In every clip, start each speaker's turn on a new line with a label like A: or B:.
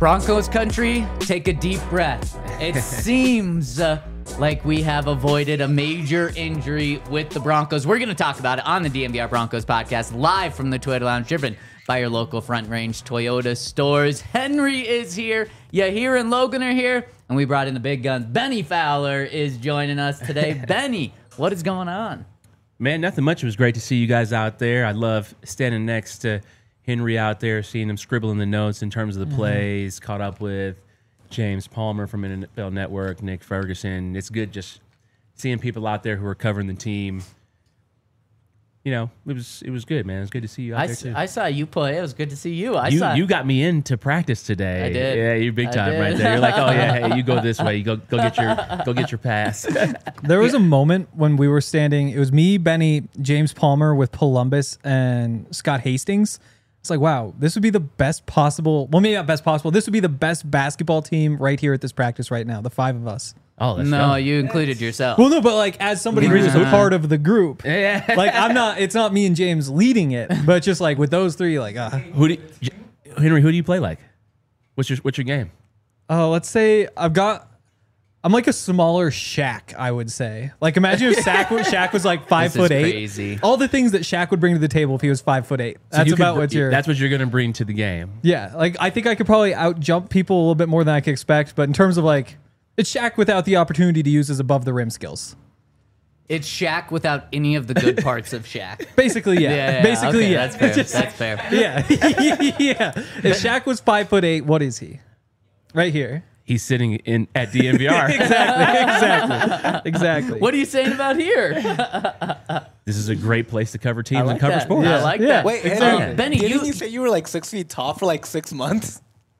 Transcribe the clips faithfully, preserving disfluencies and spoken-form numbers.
A: Broncos country, take a deep breath. It seems uh, like we have avoided a major injury with the Broncos. We're going to talk about it on the D M V R Broncos podcast, live from the Toyota Lounge, driven by your local Front Range Toyota stores. Henry is here. Yahir and Logan are here. And we brought in the big guns. Benny Fowler is joining us today. Benny, what is going on?
B: Man, nothing much. It was great to see you guys out there. I love standing next to Henry out there, seeing him scribbling the notes in terms of the mm-hmm. plays, caught up with James Palmer from N F L Network, Nick Ferguson. It's good just seeing people out there who are covering the team. You know, it was it was good, man. It was good to see you out
A: I,
B: there, too.
A: I saw you play. It was good to see you. I
B: you,
A: saw
B: you got me into practice today.
A: I did.
B: Yeah, you're big time right there. You're like, oh, yeah, hey, you go this way. You go go get your go get your pass.
C: There was a moment when we were standing. It was me, Benny, James Palmer with Columbus, and Scott Hastings. It's like, wow, this would be the best possible, well, maybe not best possible. This would be the best basketball team right here at this practice right now, the five of us.
B: Oh, let's
A: no,
B: go.
A: you included yourself.
C: Well, no, but like as somebody who's a part of the group,
B: yeah.
C: like I'm not, it's not me and James leading it, but just like with those three, like, uh,
B: who do you, Henry, who do you play like? What's your what's your game?
C: Oh, uh, let's say I've got, I'm like a smaller Shaq, I would say. Like imagine if Shaq, Shaq was like five
A: this
C: foot
A: is
C: eight.
A: Crazy.
C: All the things that Shaq would bring to the table if he was five foot eight.
B: So
C: That's
B: you
C: about
B: could,
C: what you're.
B: That's what you're going to bring to the game.
C: Yeah, like I think I could probably out jump people a little bit more than I could expect, but in terms of like, it's Shaq without the opportunity to use his above the rim skills.
A: It's Shaq without any of the good parts of Shaq.
C: Basically, yeah.
A: yeah, yeah
C: Basically,
A: okay,
C: yeah.
A: That's fair.
C: Just,
A: that's fair.
C: Yeah, yeah. If Shaq was five foot eight, what is he? Right here.
B: He's sitting in at D M V R.
C: exactly, exactly, exactly.
A: What are you saying about here?
B: This is a great place to cover teams
A: like
B: and cover
A: that.
B: sports.
A: Yeah, I like
C: Yeah.
A: that.
D: Wait,
A: Um,
D: Henry,
A: Benny,
D: didn't
A: you,
D: you say you were like six feet tall for like six months?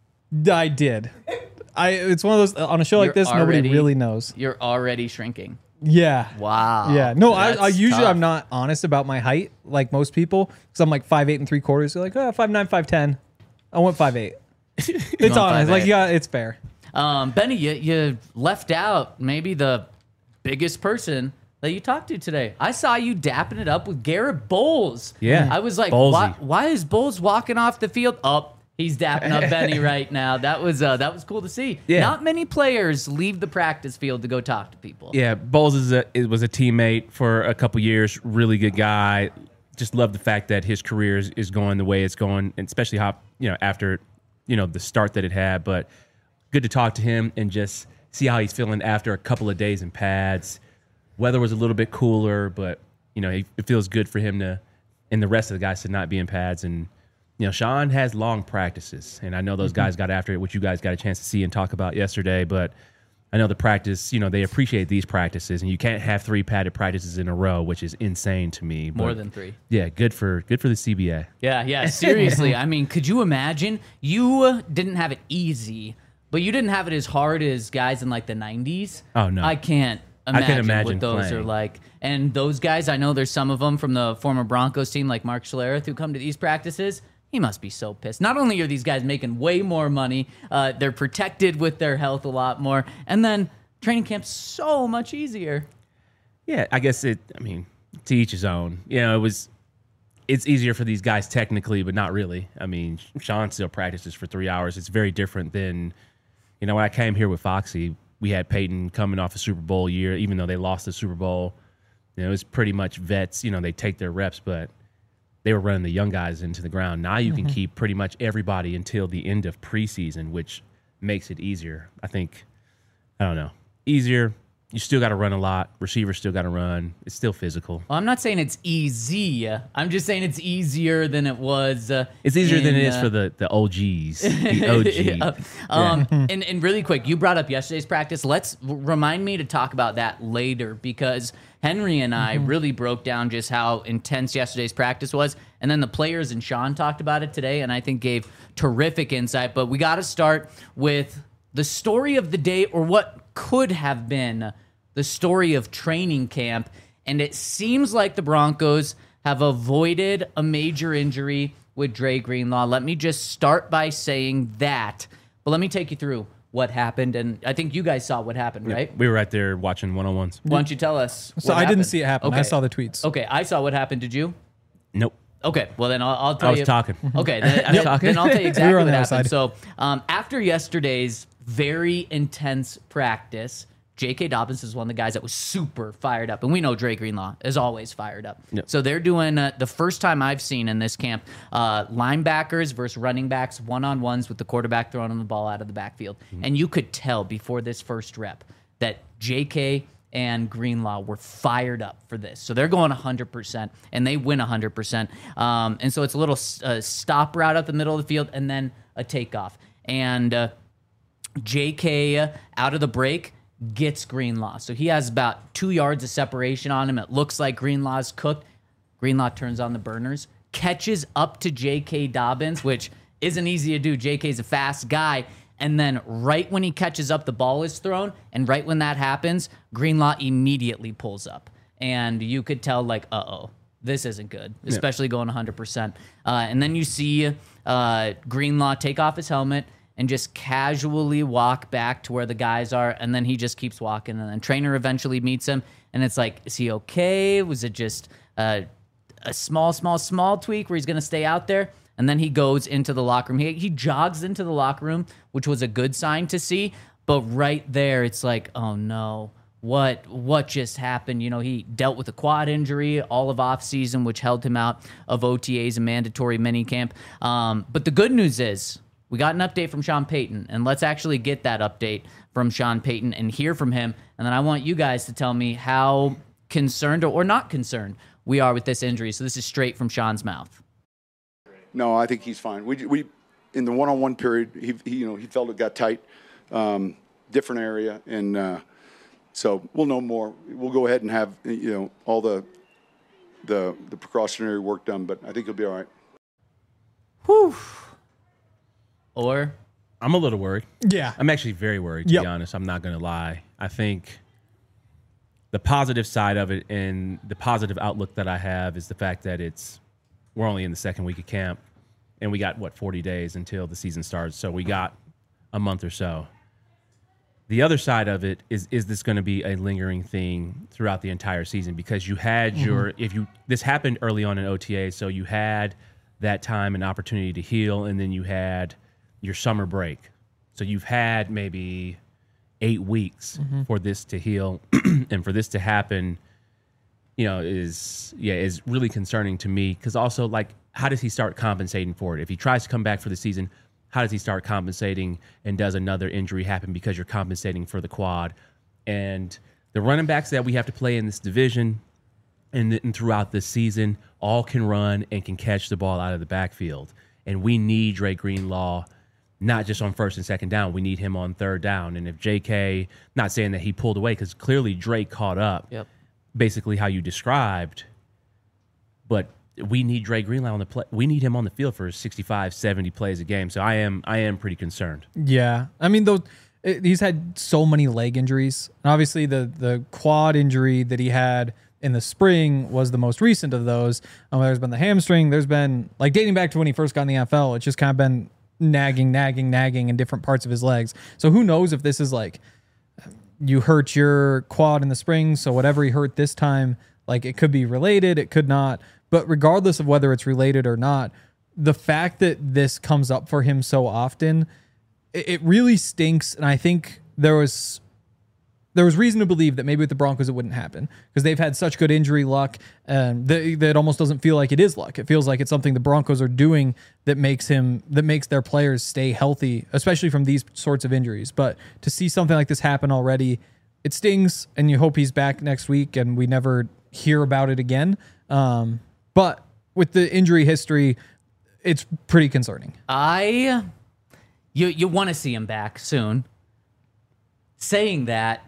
C: I did. I. It's one of those on a show like
A: You're
C: this. Nobody
A: already-
C: really knows.
A: You're already shrinking.
C: Yeah.
A: Wow.
C: Yeah. No, I,
A: That's
C: I usually
A: tough.
C: I'm not honest about my height like most people because I'm like five eight and three quarters. They're like, oh, five nine, five ten. I went five eight. It's
A: went
C: honest.
A: five
C: Like
A: eight.
C: yeah, it's fair.
A: Um, Benny, you, you left out maybe the biggest person that you talked to today. I saw you dapping it up with Garrett Bowles.
B: Yeah.
A: I was like,
B: Bowlesy.
A: why, why is Bowles walking off the field? Oh, he's dapping up Benny right now. That was uh, that was cool to see.
B: Yeah.
A: Not many players leave the practice field to go talk to people.
B: Yeah, Bowles is a, it was a teammate for a couple years. Really good guy. Just love the fact that his career is, is going the way it's going, and especially how you know after you know the start that it had. But good to talk to him and just see how he's feeling after a couple of days in pads. Weather was a little bit cooler, but you know it, it feels good for him to, and the rest of the guys to not be in pads. And you know Sean has long practices, and I know those guys got after it, which you guys got a chance to see and talk about yesterday. But I know the practice, you know, they appreciate these practices, and you can't have three padded practices in a row, which is insane to me.
A: More
B: But,
A: than three.
B: Yeah, good for good for the C B A.
A: Yeah, yeah, seriously. I mean, could you imagine? You didn't have it easy, but you didn't have it as hard as guys in like the nineties.
B: Oh, no.
A: I can't
B: I
A: imagine,
B: can't imagine
A: what those
B: playing.
A: are like. And those guys, I know there's some of them from the former Broncos team, like Mark Schlereth, who come to these practices. He must be so pissed. Not only are these guys making way more money, uh, they're protected with their health a lot more, and then training camp's so much easier.
B: Yeah, I guess it. I mean, to each his own. You know, it was. It's easier for these guys technically, but not really. I mean, Sean still practices for three hours. It's very different than, you know, when I came here with Foxy, we had Peyton coming off a Super Bowl year, even though they lost the Super Bowl. You know, it was pretty much vets. You know, they take their reps, but they were running the young guys into the ground. Now you can keep pretty much everybody until the end of preseason, which makes it easier. I think, I don't know, easier. You still got to run a lot. Receivers still got to run. It's still physical.
A: Well, I'm not saying it's easy. I'm just saying it's easier than it was. Uh,
B: It's easier
A: in,
B: than it is
A: uh,
B: for the, the O Gs, the O G.
A: Yeah. Um, and, and really quick, you brought up yesterday's practice. Let's remind me to talk about that later because Henry and I
C: Mm-hmm.
A: really broke down just how intense yesterday's practice was. And then the players and Sean talked about it today, and I think gave terrific insight. But we got to start with the story of the day, or what could have been the story of training camp. And it seems like the Broncos have avoided a major injury with Dre Greenlaw. Let me just start by saying that. But let me take you through what happened. And I think you guys saw what happened, right?
B: We were right there watching one-on-ones.
A: Why don't you tell us?
C: So
A: what
C: I didn't
A: happened?
C: see it happen. I
A: Okay.
C: saw the tweets.
A: Okay, I saw what happened. Did you?
B: Nope.
A: Okay, well then I'll, I'll tell
B: I was
A: you.
B: talking.
A: Okay, then, then,
B: talking.
A: then I'll tell you
C: We
A: exactly
C: were on
A: what
C: the other
A: happened.
C: side.
A: So um, after yesterday's very intense practice, J K. Dobbins is one of the guys that was super fired up, and we know Dre Greenlaw is always fired up.
B: Yep.
A: So they're doing uh, the first time I've seen in this camp uh, linebackers versus running backs, one on ones with the quarterback throwing the ball out of the backfield,
B: Mm-hmm.
A: and you could tell before this first rep that J K and Greenlaw were fired up for this. So they're going one hundred percent, and they win one hundred percent. Um, and so it's a little uh, stop route up the middle of the field and then a takeoff. And uh, J K out of the break gets Greenlaw. So he has about two yards of separation on him. It looks like Greenlaw's cooked. Greenlaw turns on the burners, catches up to J K. Dobbins, which isn't easy to do. J K's a fast guy. And then right when he catches up, the ball is thrown. And right when that happens, Greenlaw immediately pulls up. And you could tell, like, uh-oh, this isn't good, especially going one hundred percent. Uh, and then you see uh, Greenlaw take off his helmet and just casually walk back to where the guys are. And then he just keeps walking. And then trainer eventually meets him. And it's like, is he okay? Was it just uh, a small, small, small tweak where he's going to stay out there? And then he goes into the locker room. He, he jogs into the locker room, which was a good sign to see. But right there, it's like, oh no, what what just happened? You know, he dealt with a quad injury all of offseason, which held him out of O T As and mandatory minicamp. Um, but the good news is we got an update from Sean Payton, and let's actually get that update from Sean Payton and hear from him. And then I want you guys to tell me how concerned or, or not concerned we are with this injury. So this is straight from Sean's mouth.
E: No, I think he's fine. We we in the one-on-one period, he, he you know he felt it got tight, um, different area, and uh, so we'll know more. We'll go ahead and have you know all the the the precautionary work done, but I think he'll be all right.
A: Whew. Or
B: I'm a little worried.
C: Yeah.
B: I'm actually very worried, to
C: Yep.
B: be honest. I'm not going to lie. I think the positive side of it and the positive outlook that I have is the fact that it's we're only in the second week of camp, and we got, what, forty days until the season starts. So we got a month or so. The other side of it is, is this going to be a lingering thing throughout the entire season? Because you had
C: Mm-hmm.
B: your, if you, this happened early on in O T A, so you had that time and opportunity to heal, and then you had your summer break. So you've had maybe eight weeks
C: Mm-hmm.
B: for this to heal and for this to happen, you know, is, yeah, is really concerning to me. Because also, like, how does he start compensating for it? If he tries to come back for the season, how does he start compensating, and does another injury happen because you're compensating for the quad? And the running backs that we have to play in this division and, and throughout this season all can run and can catch the ball out of the backfield. And we need Dre Greenlaw, not just on first and second down. We need him on third down. And if J K, not saying that he pulled away, because clearly Dre caught up,
A: Yep.
B: basically how you described, but we need Dre Greenlaw on the play. We need him on the field for sixty-five, seventy plays a game. So I am I am pretty concerned.
C: Yeah, I mean, though, it, he's had so many leg injuries. And obviously, the the quad injury that he had in the spring was the most recent of those. Um, there's been the hamstring. There's been, like, dating back to when he first got in the N F L, it's just kind of been nagging, nagging, nagging in different parts of his legs. So who knows if this is like you hurt your quad in the spring, so whatever he hurt this time, like, it could be related, it could not. But regardless of whether it's related or not, the fact that this comes up for him so often, it, it really stinks. And I think there was there was reason to believe that maybe with the Broncos it wouldn't happen, because they've had such good injury luck, and that, that it almost doesn't feel like it is luck. It feels like it's something the Broncos are doing that makes him that makes their players stay healthy, especially from these sorts of injuries. But to see something like this happen already, it stings, and you hope he's back next week and we never hear about it again. Um, but with the injury history, it's pretty concerning.
A: I, you you want to see him back soon. Saying that,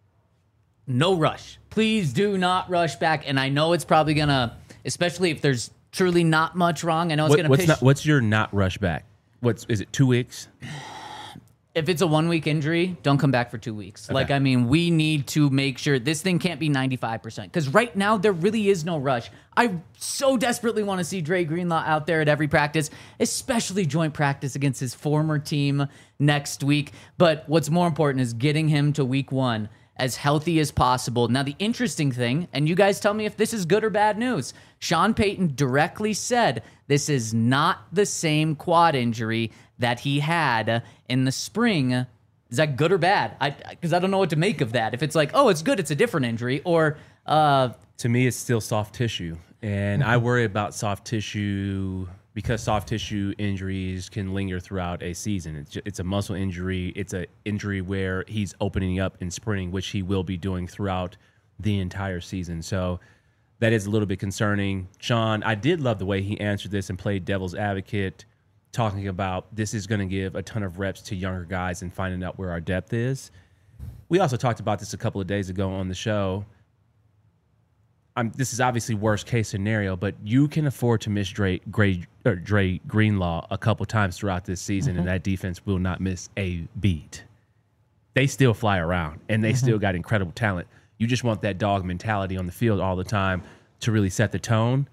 A: no rush. Please do not rush back. And I know it's probably gonna, especially if there's truly not much wrong. I know it's
B: What,
A: gonna
B: what's
A: piss.
B: not, what's your not rush back? What's is it? Two weeks?
A: If it's a one week injury, don't come back for two weeks. Like, I mean, we need to make sure this thing can't be ninety-five percent, because right now there really is no rush. I so desperately want to see Dre Greenlaw out there at every practice, especially joint practice against his former team next week. But what's more important is getting him to week one as healthy as possible. Now, the interesting thing, and you guys tell me if this is good or bad news, Sean Payton directly said this is not the same quad injury that he had in the spring. Is that good or bad? I Because I don't know what to make of that. If it's like, oh, it's good, it's a different injury, or... Uh,
B: to me, it's still soft tissue. And I worry about soft tissue because soft tissue injuries can linger throughout a season. It's, just, it's a muscle injury. It's an injury where he's opening up and sprinting, which he will be doing throughout the entire season. So that is a little bit concerning. Sean, I did love the way he answered this and played devil's advocate, talking about this is going to give a ton of reps to younger guys and finding out where our depth is. We also talked about this a couple of days ago on the show. I'm, this is obviously worst case scenario, but you can afford to miss Dre, Dre, or Dre Greenlaw a couple times throughout this season, mm-hmm. and that defense will not miss a beat. They still fly around, and they mm-hmm. still got incredible talent. You just want that dog mentality on the field all the time to really set the tone.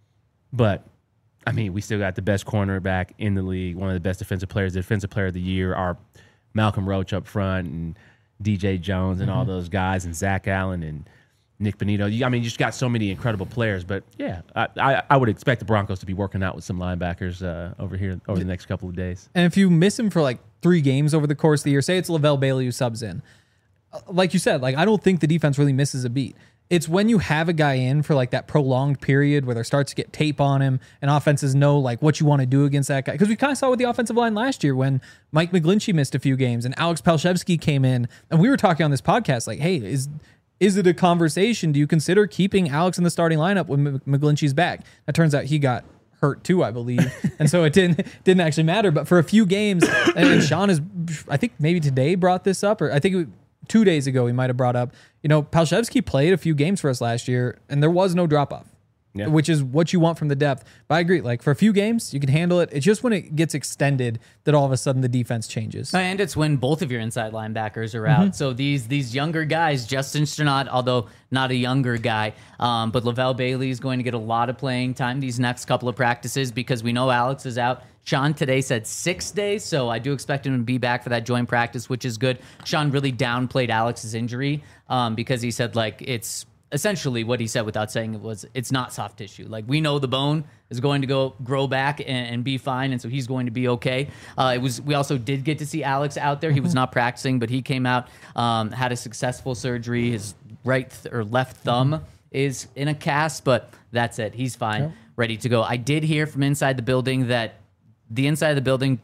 B: But, I mean, we still got the best cornerback in the league, one of the best defensive players, the defensive player of the year, our Malcolm Roach up front, and D J Jones and mm-hmm. all those guys, and Zach Allen and Nick Benito. I mean, you just got so many incredible players. But, yeah, I, I, I would expect the Broncos to be working out with some linebackers uh, over here over the next couple of days.
C: And if you miss him for, like, three games over the course of the year, say it's Lavelle Bailey who subs in. Like you said, like I don't think the defense really misses a beat. It's when you have a guy in for, like, that prolonged period where there starts to get tape on him and offenses know, like, what you want to do against that guy. Because we kind of saw with the offensive line last year when Mike McGlinchey missed a few games and Alex Palshevsky came in. And we were talking on this podcast, like, hey, is... Is it a conversation? Do you consider keeping Alex in the starting lineup when McGlinchey's back? It turns out he got hurt too, I believe, and so it didn't didn't actually matter. But for a few games, and Sean is, I think maybe today brought this up, or I think it, two days ago he might have brought up. You know, Palshevsky played a few games for us last year, and there was no drop off. Yeah. Which is what you want from the depth. But I agree, like for a few games, you can handle it. It's just when it gets extended that all of a sudden the defense changes.
A: And it's when both of your inside linebackers are out. Mm-hmm. So these these younger guys, Justin Sternad, although not a younger guy, um, but Lavelle Bailey is going to get a lot of playing time these next couple of practices because we know Alex is out. Sean today said six days, so I do expect him to be back for that joint practice, which is good. Sean really downplayed Alex's injury um, because he said, like, it's... essentially what he said without saying it was it's not soft tissue. Like we know the bone is going to go grow back and, and be fine, and so he's going to be okay. Uh, it was we also did get to see Alex out there. He was not practicing, but he came out, um, had a successful surgery. His right th- or left thumb mm-hmm. is in a cast, but that's it. He's fine, yep. ready to go. I did hear from inside the building that the inside of the building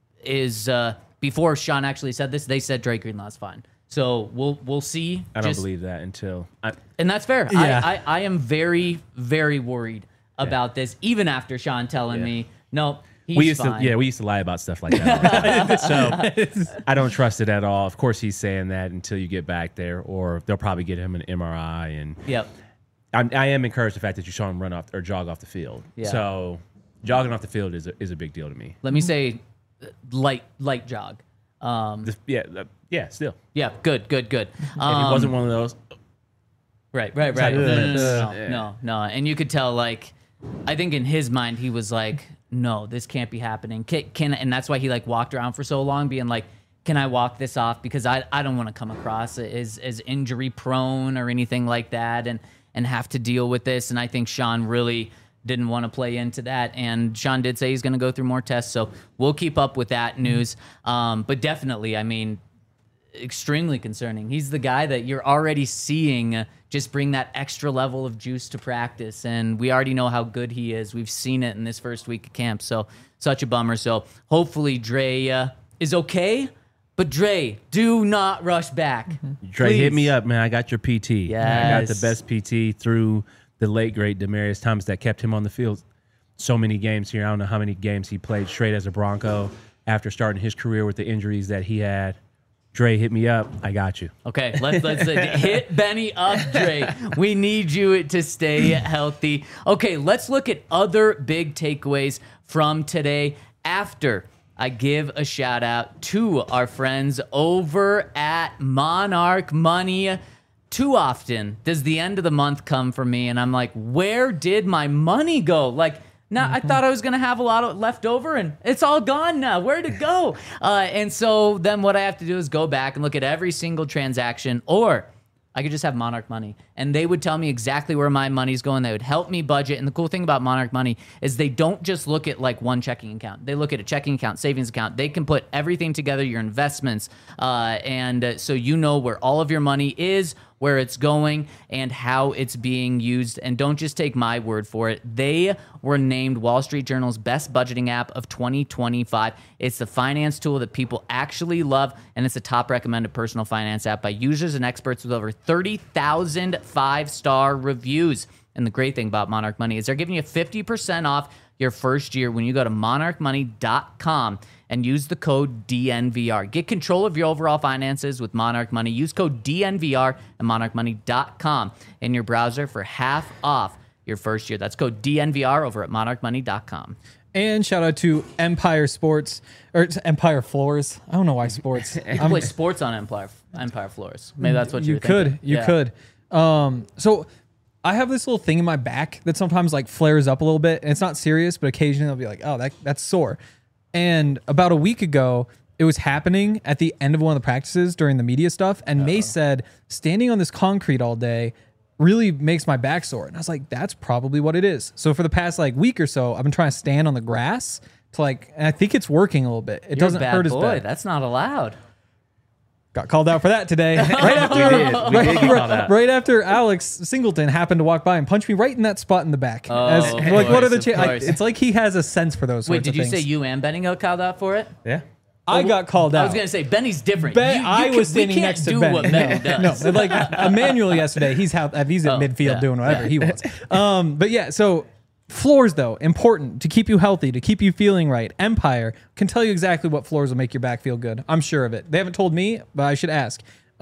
A: is uh, before Sean actually said this. They said Dre Greenlaw's fine. So we'll we'll see.
B: I don't Just, believe that until, I,
A: and that's fair. Yeah. I, I I am very very worried about yeah. this, even after Sean telling yeah. me no. He's
B: we used
A: fine.
B: to yeah we used to lie about stuff like that. So I don't trust it at all. Of course he's saying that until you get back there, or they'll probably get him an M R I. And
A: yep,
B: I'm, I am encouraged the fact that you saw him run off or jog off the field. Yeah. So jogging off the field is a, is a big deal to me.
A: Let me say, light light jog. Um,
B: the, yeah. The, Yeah, still.
A: Yeah, good, good, good.
B: Um, it wasn't one of those.
A: Right, right, right. No, no, no, no, no. And you could tell, like, I think in his mind, he was like, no, this can't be happening. Can, can and that's why he, like, walked around for so long being like, can I walk this off? Because I, I don't want to come across as, as injury prone or anything like that and, and have to deal with this. And I think Sean really didn't want to play into that, and Sean did say he's going to go through more tests, so we'll keep up with that news. Um, but definitely, I mean, extremely concerning. He's the guy that you're already seeing just bring that extra level of juice to practice, and we already know how good he is. We've seen it in this first week of camp, so such a bummer. So hopefully Dre uh, is okay, but Dre, do not rush back. Mm-hmm.
B: Dre, Please. Hit me up, man. I got your P T.
A: Yes.
B: I got the best P T through the late, great Demaryius Thomas that kept him on the field so many games here. I don't know how many games he played straight as a Bronco after starting his career with the injuries that he had. Dre, hit me up. I got you.
A: Okay, let's let's uh, hit Benny up, Dre. We need you to stay healthy. Okay, let's look at other big takeaways from today after I give a shout out to our friends over at Monarch Money. Too often does the end of the month come for me, and I'm like, where did my money go? Like, Now I thought I was gonna have a lot of left over, and it's all gone now. Where'd it go? Uh, and so then what I have to do is go back and look at every single transaction, or I could just have Monarch Money, and they would tell me exactly where my money's going. They would help me budget. And the cool thing about Monarch Money is they don't just look at like one checking account. They look at a checking account, savings account. They can put everything together, your investments, uh, and uh, so you know where all of your money is, where it's going, and how it's being used. And don't just take my word for it. They were named Wall Street Journal's best budgeting app of twenty twenty-five. It's the finance tool that people actually love, and it's a top recommended personal finance app by users and experts with over thirty thousand five-star reviews. And the great thing about Monarch Money is they're giving you fifty percent off your first year when you go to monarch money dot com and use the code D N V R. Get control of your overall finances with Monarch Money. Use code D N V R at monarch money dot com in your browser for half off your first year. That's code D N V R over at monarch money dot com.
C: And shout out to Empire Sports, or it's Empire Floors. I don't know why sports.
A: You can play sports on Empire Empire Floors. Maybe that's what
C: you
A: you're
C: could.
A: thinking.
C: You
A: Yeah.
C: could. Um, so I have this little thing in my back that sometimes like flares up a little bit, and it's not serious, but occasionally I'll be like, "Oh, that that's sore." And about a week ago, it was happening at the end of one of the practices during the media stuff, and Mace said, "Standing on this concrete all day really makes my back sore." And I was like, "That's probably what it is." So for the past like week or so, I've been trying to stand on the grass to like, and I think it's working a little bit. It
A: You're
C: doesn't
A: a bad
C: hurt as
A: boy.
C: bad.
A: That's not allowed.
C: Got called out for that today. Right after,
B: We did. We did get called out.
C: right after Alex Singleton happened to walk by and punch me right in that spot in the back.
A: Oh,
C: As,
A: of
C: like, what are the
A: course,
C: cha-
A: of
C: I,
A: course.
C: It's like he has a sense for those.
A: Wait,
C: sorts
A: did
C: of
A: you
C: things.
A: say you and Benny got called out for it?
B: Yeah.
C: I got called out?
A: I was gonna say Benny's different.
C: Ben,
A: You- you
C: I
A: can-
C: was
A: we
C: standing
A: can't
C: next to
A: do
C: Ben.
A: what Benny does.
C: No, like Emmanuel yesterday, he's how he's at
A: Oh,
C: midfield
A: yeah,
C: doing whatever
A: yeah.
C: he wants. Um, but yeah, so floors though important to keep you healthy, to keep you feeling right. Empire can tell you exactly what floors will make your back feel good. I'm sure of it. They haven't told me, but I should ask.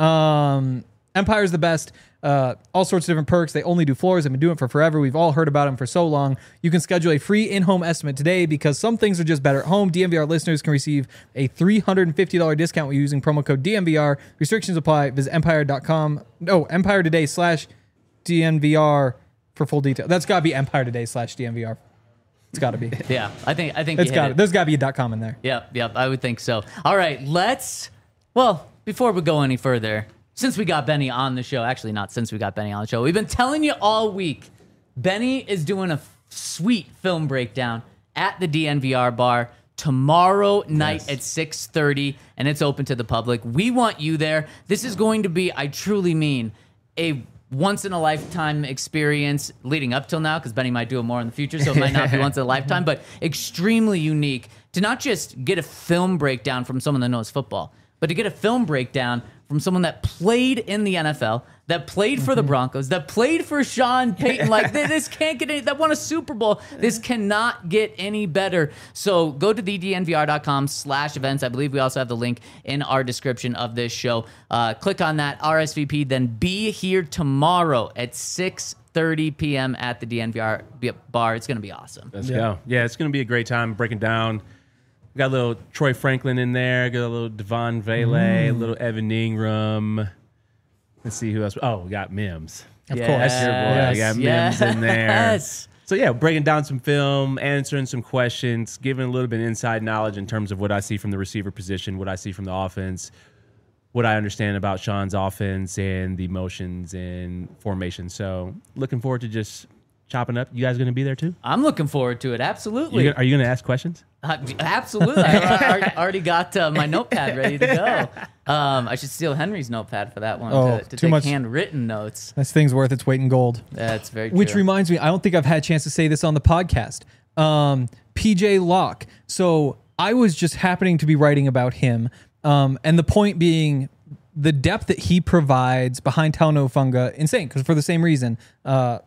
C: Um, Empire's the best. Uh, all sorts of different perks. They only do floors. They've been doing it for forever. We've all heard about them for so long. You can schedule a free in-home estimate today because some things are just better at home. D N V R listeners can receive a three hundred fifty dollars discount when using promo code D N V R. Restrictions apply. Visit empire dot com. No, Empire Today slash D N V R for full detail. That's got to be Empire Today slash D N V R. It's got to be.
A: Yeah, I think I think
C: It's
A: you
C: got
A: hit
C: it.
A: it.
C: There's got to be a .com in there.
A: Yep, yep, I would think so. All right, let's. Well, before we go any further, since we got Benny on the show, actually not since we got Benny on the show, we've been telling you all week, Benny is doing a sweet film breakdown at the D N V R bar tomorrow night
B: Yes.
A: at six thirty, and it's open to the public. We want you there. This is going to be, I truly mean, a once-in-a-lifetime experience leading up till now, because Benny might do it more in the future, so it might not be once in a lifetime, but extremely unique to not just get a film breakdown from someone that knows football, but to get a film breakdown from someone that played in the N F L, that played for the Broncos, that played for Sean Payton. Like, th- this can't get any, that won a Super Bowl. This cannot get any better. So go to the D N V R dot com slash events. I believe we also have the link in our description of this show. Uh, click on that, R S V P, then be here tomorrow at six thirty p.m. at the D N V R bar. It's going to be awesome.
B: Let's go. Yeah, it's going to be a great time breaking down. We got a little Troy Franklin in there. Got a little Devon Vele, a little Evan Ingram. Let's see who else. Oh, we got Mims.
C: Of
A: Yes.
C: course.
B: That's your boy.
C: Yes.
B: We got Mims in there.
A: Yes.
B: So yeah, breaking down some film, answering some questions, giving a little bit of inside knowledge in terms of what I see from the receiver position, what I see from the offense, what I understand about Sean's offense and the motions and formation. So looking forward to just chopping up. You guys going to be there too?
A: I'm looking forward to it. Absolutely.
B: You gonna- are you going to ask questions?
A: Uh, absolutely. I, I already got uh, my notepad ready to go. Um, I should steal Henry's notepad for that one
C: Oh,
A: to, to
C: too
A: take
C: much-
A: handwritten notes.
C: This thing's worth its weight in gold.
A: That's very true.
C: Which reminds me, I don't think I've had a chance to say this on the podcast. Um, P J Locke. So I was just happening to be writing about him. Um, and the point being, the depth that he provides behind Talanoa, insane, because for the same reason, uh,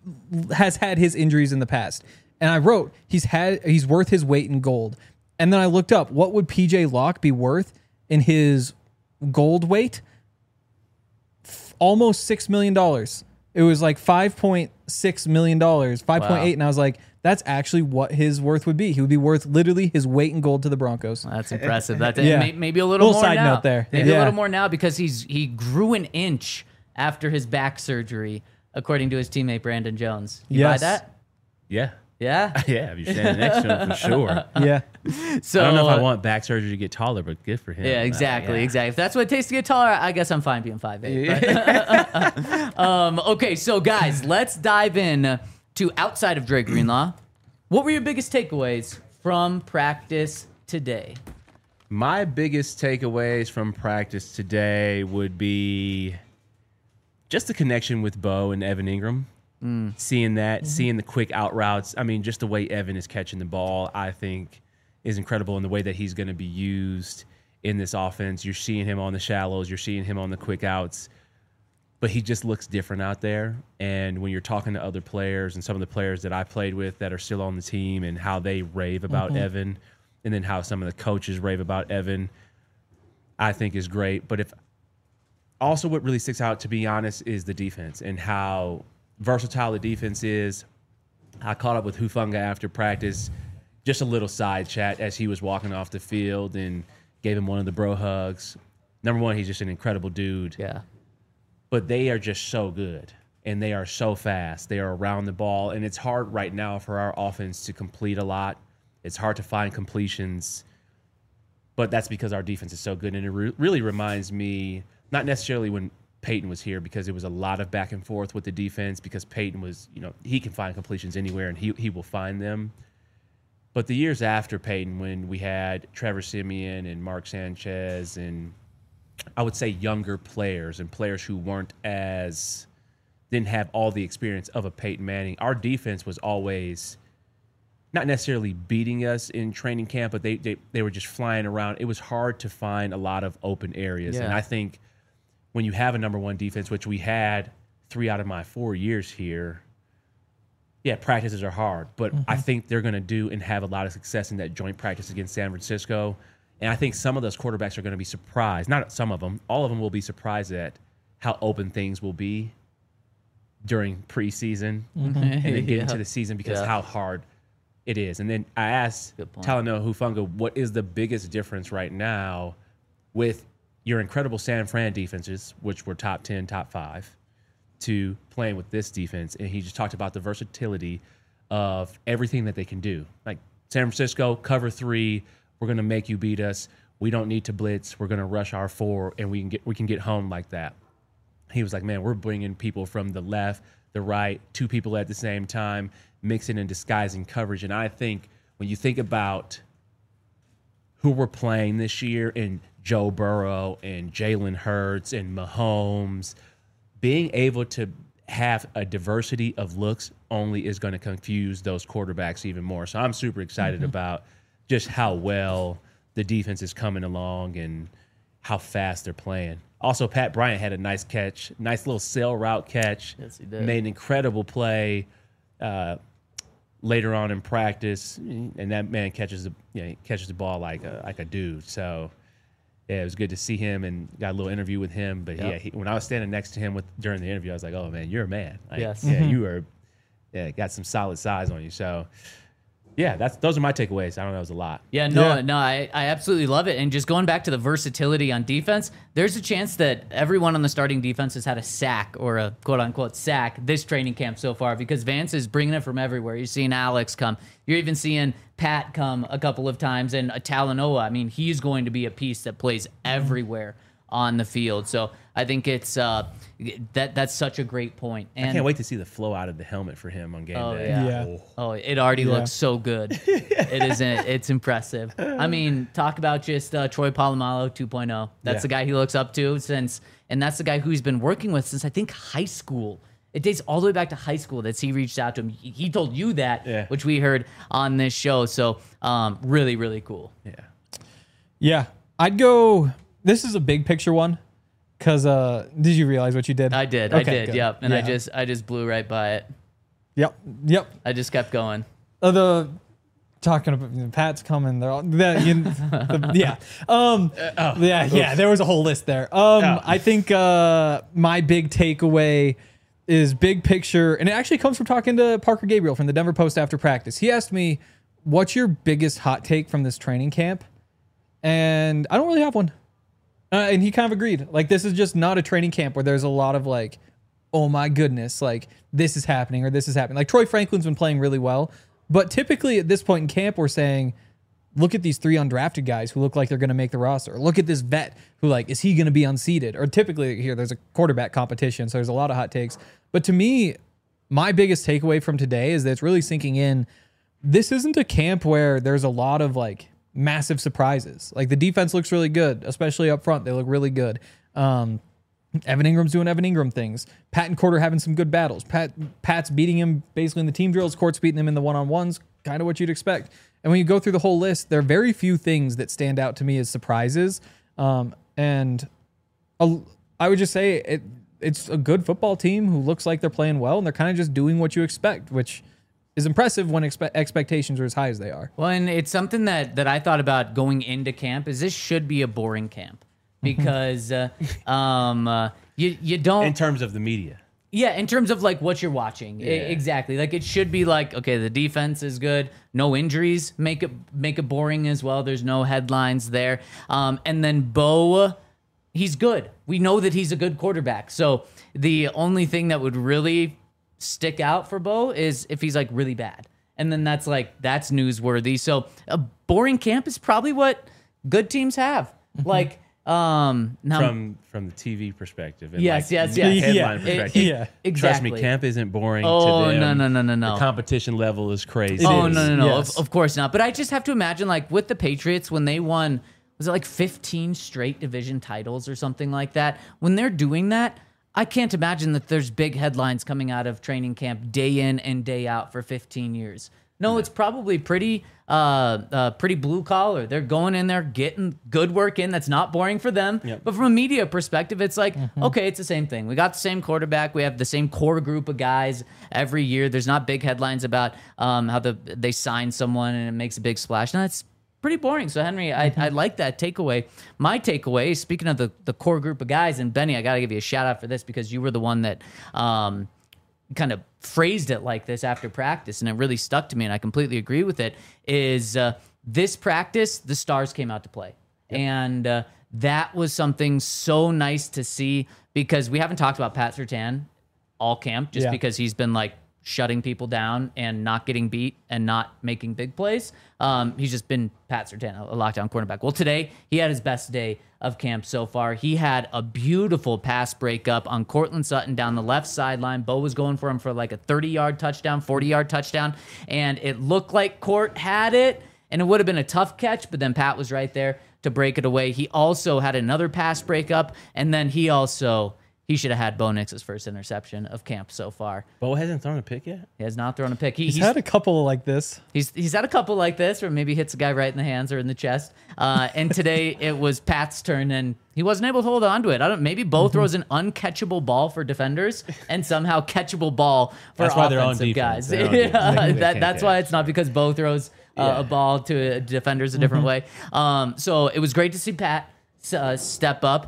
C: has had his injuries in the past. And I wrote, he's had he's worth his weight in gold. And then I looked up, what would P J Locke be worth in his gold weight? Almost six million dollars. It was like five point six million dollars, five point eight,
A: Wow.
C: and I was like, that's actually what his worth would be. He would be worth literally his weight in gold to the Broncos.
A: That's impressive. That's
C: Yeah.
A: may, maybe a little,
C: Little
A: more
C: side
A: now.
C: note there.
A: Maybe
C: Yeah.
A: a little more now because he's he grew an inch after his back surgery, according to his teammate Brandon Jones. You
C: Yes.
A: buy that?
B: Yeah.
A: Yeah.
B: Yeah, if you're standing next to him for sure.
C: Yeah.
A: So
B: I don't know if I
A: uh,
B: want back surgery to get taller, but good for him.
A: Yeah,
B: Uh,
A: exactly,
B: yeah.
A: exactly. If that's what it takes to get taller, I guess I'm fine being five eight. But, um, okay, so guys, let's dive in to outside of Dre Greenlaw. What were your biggest takeaways from practice today?
B: My biggest takeaways from practice today would be just the connection with Bo and Evan Ingram. Mm. Seeing that, mm-hmm. seeing the quick out routes. I mean, just the way Evan is catching the ball, I think, is incredible in the way that he's going to be used in this offense. You're seeing him on the shallows. You're seeing him on the quick outs. But he just looks different out there. And when you're talking to other players and some of the players that I played with that are still on the team and how they rave about mm-hmm. Evan and then how some of the coaches rave about Evan, I think is great. But if also what really sticks out, to be honest, is the defense and how versatile the defense is. I caught up with Hufanga after practice, just a little side chat as he was walking off the field and gave him one of the bro hugs. Number one, he's just an incredible dude.
A: Yeah.
B: But they are just so good, and they are so fast. They are around the ball, and it's hard right now for our offense to complete a lot. It's hard to find completions, but that's because our defense is so good, and it re- really reminds me, not necessarily when Peyton was here, because it was a lot of back and forth with the defense, because Peyton was, you know, he can find completions anywhere, and he he will find them. But the years after Peyton, when we had Trevor Siemian and Mark Sanchez and I would say younger players and players who weren't as, didn't have all the experience of a Peyton Manning, our defense was always not necessarily beating us in training camp, but they they, they were just flying around. It was hard to find a lot of open areas.
A: Yeah.
B: And I think when you have a number one defense, which we had three out of my four years here, yeah, practices are hard, but mm-hmm. I think they're going to do and have a lot of success in that joint practice against San Francisco. And I think some of those quarterbacks are going to be surprised. Not some of them. All of them will be surprised at how open things will be during preseason mm-hmm. and then get yeah. into the season because yeah. how hard it is. And then I asked Talanoa Hufanga, what is the biggest difference right now with your incredible San Fran defenses, which were top ten, top five, to playing with this defense? And he just talked about the versatility of everything that they can do. Like San Francisco, cover three, we're going to make you beat us. We don't need to blitz. We're going to rush our four, and we can get we can get home like that. He was like, man, we're bringing people from the left, the right, two people at the same time, mixing and disguising coverage. And I think when you think about who we're playing this year in Joe Burrow and Jalen Hurts and Mahomes, being able to have a diversity of looks only is going to confuse those quarterbacks even more. So I'm super excited mm-hmm. about just how well the defense is coming along and how fast they're playing. Also, Pat Bryant had a nice catch, nice little sail route catch.
A: Yes, he did.
B: Made an incredible play uh, later on in practice, and that man catches the you know, catches the ball like a like a dude. So yeah, it was good to see him and got a little interview with him. But yep. yeah, he, when I was standing next to him with during the interview, I was like, "Oh man, you're a man. Like,
A: yes,
B: yeah,
A: mm-hmm.
B: you are. Yeah, got some solid size on you." So. Yeah, that's those are my takeaways. I don't know, it was a lot.
A: Yeah, no,
C: Yeah.
A: no, I, I absolutely love it. And just going back to the versatility on defense, there's a chance that everyone on the starting defense has had a sack or a quote-unquote sack this training camp so far because Vance is bringing it from everywhere. You're seeing Alex come. You're even seeing Pat come a couple of times. And Talanoa, I mean, he's going to be a piece that plays everywhere on the field. So I think it's uh, that that's such a great point. And
B: I can't wait to see the flow out of the helmet for him on game
A: oh,
B: day.
A: Yeah.
C: Yeah.
A: Oh, it already
C: Yeah.
A: looks so good. It isn't. It's impressive. I mean, talk about just uh, Troy Polamalu two point oh. That's
B: Yeah.
A: the guy he looks up to since, and that's the guy who he's been working with since I think high school. It dates all the way back to high school that he reached out to him. He, he told you that,
B: Yeah.
A: which we heard on this show. So, um, really, really cool.
B: Yeah.
C: Yeah. I'd go, this is a big picture one. Cause uh, did you realize what you did?
A: I did. I
C: Okay,
A: did.
C: good.
A: Yep. And I
C: Yeah.
A: just, I just blew right by it.
C: Yep. Yep.
A: I just kept going.
C: Uh, the talking about you know, Pat's coming. They're all that. You, the, yeah. Um.
B: oh,
C: yeah. Yeah. There was a whole list there. Um.
B: Oh.
C: I think uh my big takeaway is big picture, and it actually comes from talking to Parker Gabriel from the Denver Post after practice. He asked me, "What's your biggest hot take from this training camp?" And I don't really have one. Uh, and he kind of agreed. Like, this is just not a training camp where there's a lot of like, oh my goodness, like this is happening or this is happening. Like Troy Franklin's been playing really well, But typically at this point in camp, we're saying, look at these three undrafted guys who look like they're going to make the roster. Look at this vet who, like, is he going to be unseated? Or typically here, there's a quarterback competition, so there's a lot of hot takes. But to me, my biggest takeaway from today is that it's really sinking in. This isn't a camp where there's a lot of, like, massive surprises. Like, the defense looks really good, especially up front. They look really good. Um, Evan Ingram's doing Evan Ingram things. Pat and Court are having some good battles. Pat Pat's beating him basically in the team drills. Court's beating him in the one-on-ones, kind of what you'd expect. And when you go through the whole list, there are very few things that stand out to me as surprises. Um, and a, I would just say it, it's a good football team who looks like they're playing well, and they're kind of just doing what you expect, which is impressive when expe- expectations are as high as they are.
A: Well, and it's something that, that I thought about going into camp is this should be a boring camp because uh, um, uh, you you don't
B: In terms of the media.
A: Yeah, in terms of like what you're watching, I- exactly. Like it should be like, okay, the defense is good, no injuries, make it make it boring as well. There's no headlines there, um, and then Bo, he's good. We know that he's a good quarterback. So the only thing that would really stick out for Bo is if he's like really bad, and then that's like that's newsworthy. So a boring camp is probably what good teams have. Like. Um, now,
B: From from the T V perspective. And
A: Yes,
B: like
A: yes,
B: the
A: yes.
B: Headline
C: Yeah.
B: perspective.
C: It- yeah.
A: exactly.
B: Trust me, camp isn't boring
A: Oh,
B: to them.
A: no, no, no, no, no.
B: The competition level is crazy.
A: Oh
C: is,
A: no no no!
C: yes.
A: Of, of course not. But I just have to imagine, like with the Patriots, when they won, was it like fifteen straight division titles or something like that? When they're doing that, I can't imagine that there's big headlines coming out of training camp day in and day out for fifteen years. No, it's probably pretty, uh, uh, pretty blue collar. They're going in there, getting good work in. That's not boring for them.
B: Yep.
A: But from a media perspective, it's like, okay, it's the same thing. We got the same quarterback. We have the same core group of guys every year. There's not big headlines about um, how the they sign someone and it makes a big splash. No, it's pretty boring. So Henry, I, I like that takeaway. My takeaway, speaking of the the core group of guys, and Benny, I got to give you a shout out for this because you were the one that. Um, kind of phrased it like this after practice, and it really stuck to me, and I completely agree with it, is uh, this practice, the stars came out to play. Yep. And uh, that was something so nice to see because we haven't talked about Pat Surtain all camp just
C: Yeah.
A: because he's been like shutting people down and not getting beat and not making big plays. Um, he's just been Pat Surtain, a lockdown cornerback. Well, today he had his best day of camp so far. He had a beautiful pass breakup on Cortland Sutton down the left sideline. Bo was going for him for like a thirty-yard touchdown, forty-yard touchdown, and it looked like Court had it, and it would have been a tough catch, but then Pat was right there to break it away. He also had another pass breakup, and then he also... He should have had Bo Nix's first interception of camp so far.
B: Bo hasn't thrown a pick yet?
A: He has not thrown a pick. He,
C: He's,
A: he's,
C: had a couple like this.
A: he's he's had a couple like this, or maybe hits a guy right in the hands or in the chest. Uh, and today it was Pat's turn, and he wasn't able to hold on to it. I don't. Maybe Bo throws an uncatchable ball for defenders, and somehow catchable ball for
B: That's why they're on
A: offensive
B: defense.
A: guys.
B: They're on
A: Yeah,
B: defense. They- they
A: that,
B: can't
A: that's
B: catch.
A: why it's not because Bo throws uh,
B: Yeah.
A: a ball to defenders a different way. Um, so it was great to see Pat uh, step up.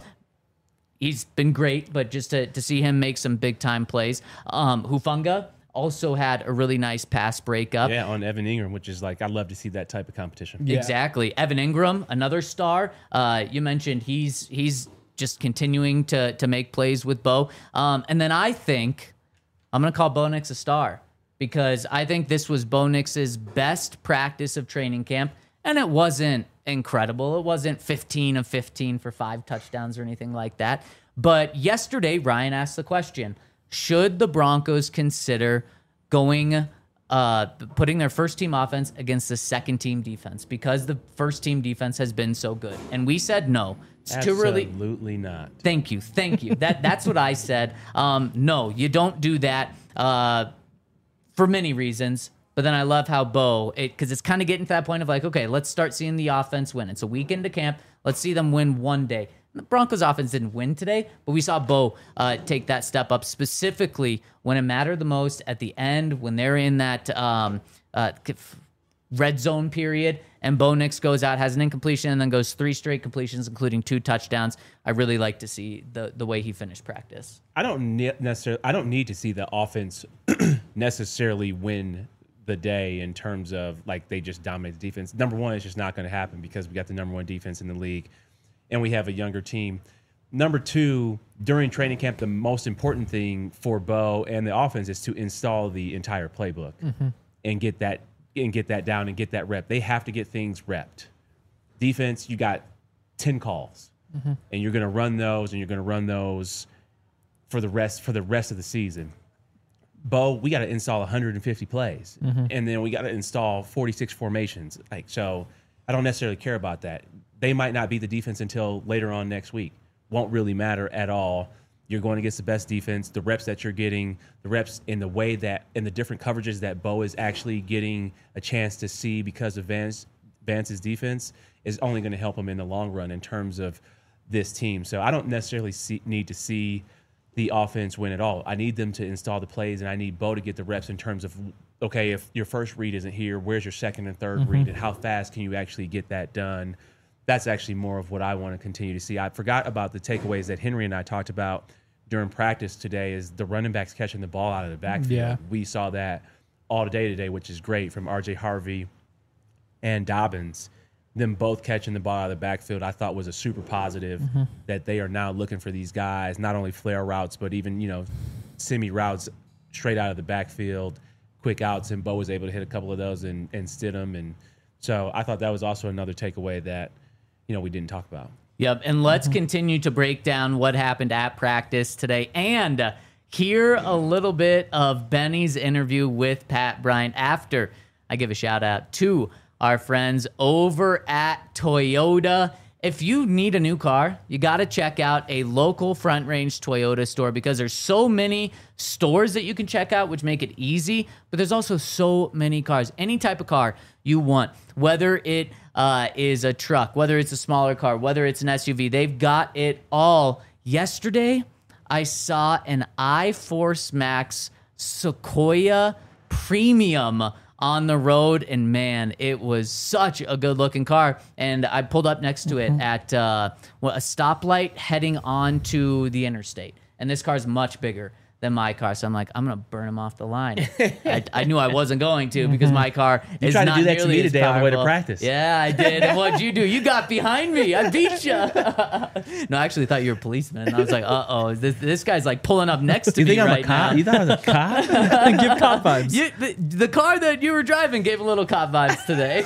A: He's been great, but just to, to see him make some big time plays. Um, Hufanga also had a really nice pass breakup.
B: Yeah, on Evan Ingram, which is like, I love to see that type of competition.
C: Yeah.
A: Exactly. Evan Ingram, another star. Uh, you mentioned he's he's just continuing to to make plays with Bo. Um, and then I think I'm gonna call Bo Nix a star because I think this was Bo Nix's best practice of training camp, and it wasn't incredible. It wasn't fifteen of fifteen for five touchdowns or anything like that. But yesterday, Ryan asked the question, should the Broncos consider going, uh, putting their first team offense against the second team defense because the first team defense has been so good? And we said no. It's too early.
B: Absolutely not.
A: Thank you. Thank you. That That's what I said. Um, no, you don't do that uh, for many reasons. But then I love how Bo, because it, it's kind of getting to that point of like, okay, let's start seeing the offense win. It's a week into camp. Let's see them win one day. The Broncos offense didn't win today, but we saw Bo uh, take that step up specifically when it mattered the most at the end, when they're in that um, uh, red zone period, and Bo Nix goes out, has an incompletion, and then goes three straight completions, including two touchdowns. I really like to see the the way he finished practice.
B: I don't ne- necessarily. I don't need to see the offense necessarily win the day in terms of like they just dominate the defense. Number one, it's just not going to happen because we got the number one defense in the league, and we have a younger team. Number two, during training camp, the most important thing for Bo and the offense is to install the entire playbook mm-hmm. and get that and get that down and get that rep. They have to get things repped. Defense, you got ten calls, mm-hmm. and you're going to run those, and you're going to run those for the rest for the rest of the season. Bo, we got to install one hundred fifty plays, mm-hmm. and then we got to install forty-six formations. Like, so I don't necessarily care about that. They might not be the defense until later on next week. Won't really matter at all. You're going against the best defense. The reps that you're getting, the reps in the way that, in the different coverages that Bo is actually getting a chance to see because of Vance, Vance's defense is only going to help him in the long run in terms of this team. So I don't necessarily see, need to see the offense win at all. I need them to install the plays, and I need Bo to get the reps in terms of, okay, if your first read isn't here, where's your second and third mm-hmm. read, and how fast can you actually get that done? That's actually more of what I want to continue to see. I forgot about the takeaways that Henry and I talked about during practice today is the running backs catching the ball out of the backfield.
C: Yeah.
B: We saw that all day today, which is great, from R J Harvey and Dobbins. Them both catching the ball out of the backfield, I thought was a super positive mm-hmm. that they are now looking for these guys, not only flare routes, but even, you know, semi routes straight out of the backfield, quick outs, and Bo was able to hit a couple of those and, and Stidham. And so I thought that was also another takeaway that, you know, we didn't talk about.
A: Yep, and let's continue to break down what happened at practice today and uh, hear a little bit of Benny's interview with Pat Bryant after I give a shout out to our friends over at Toyota. If you need a new car, you got to check out a local Front Range Toyota store because there's so many stores that you can check out, which make it easy, but there's also so many cars. Any type of car you want, whether it uh, is a truck, whether it's a smaller car, whether it's an S U V, they've got it all. Yesterday, I saw an iForce Max Sequoia Premium on the road, and man, it was such a good looking car. And I pulled up next to it mm-hmm. at uh, well, a stoplight heading onto the interstate, and this car is much bigger than my car, so I'm like, I'm gonna burn him off the line. I, I knew I wasn't going to because my car
B: you
A: is
B: tried
A: not
B: to do that to
A: nearly
B: me
A: as
B: today on the way to
A: powerful.
B: practice.
A: Yeah, I did. And what'd you do? You got behind me. I beat you. No, I actually thought you were a policeman. I was like, uh oh, this, this guy's like pulling up next to
B: you
A: me
B: think I'm
A: right
B: a cop?
A: now.
B: You thought I was a cop?
C: Give cop vibes.
A: You, the, the car that you were driving gave a little cop vibes today.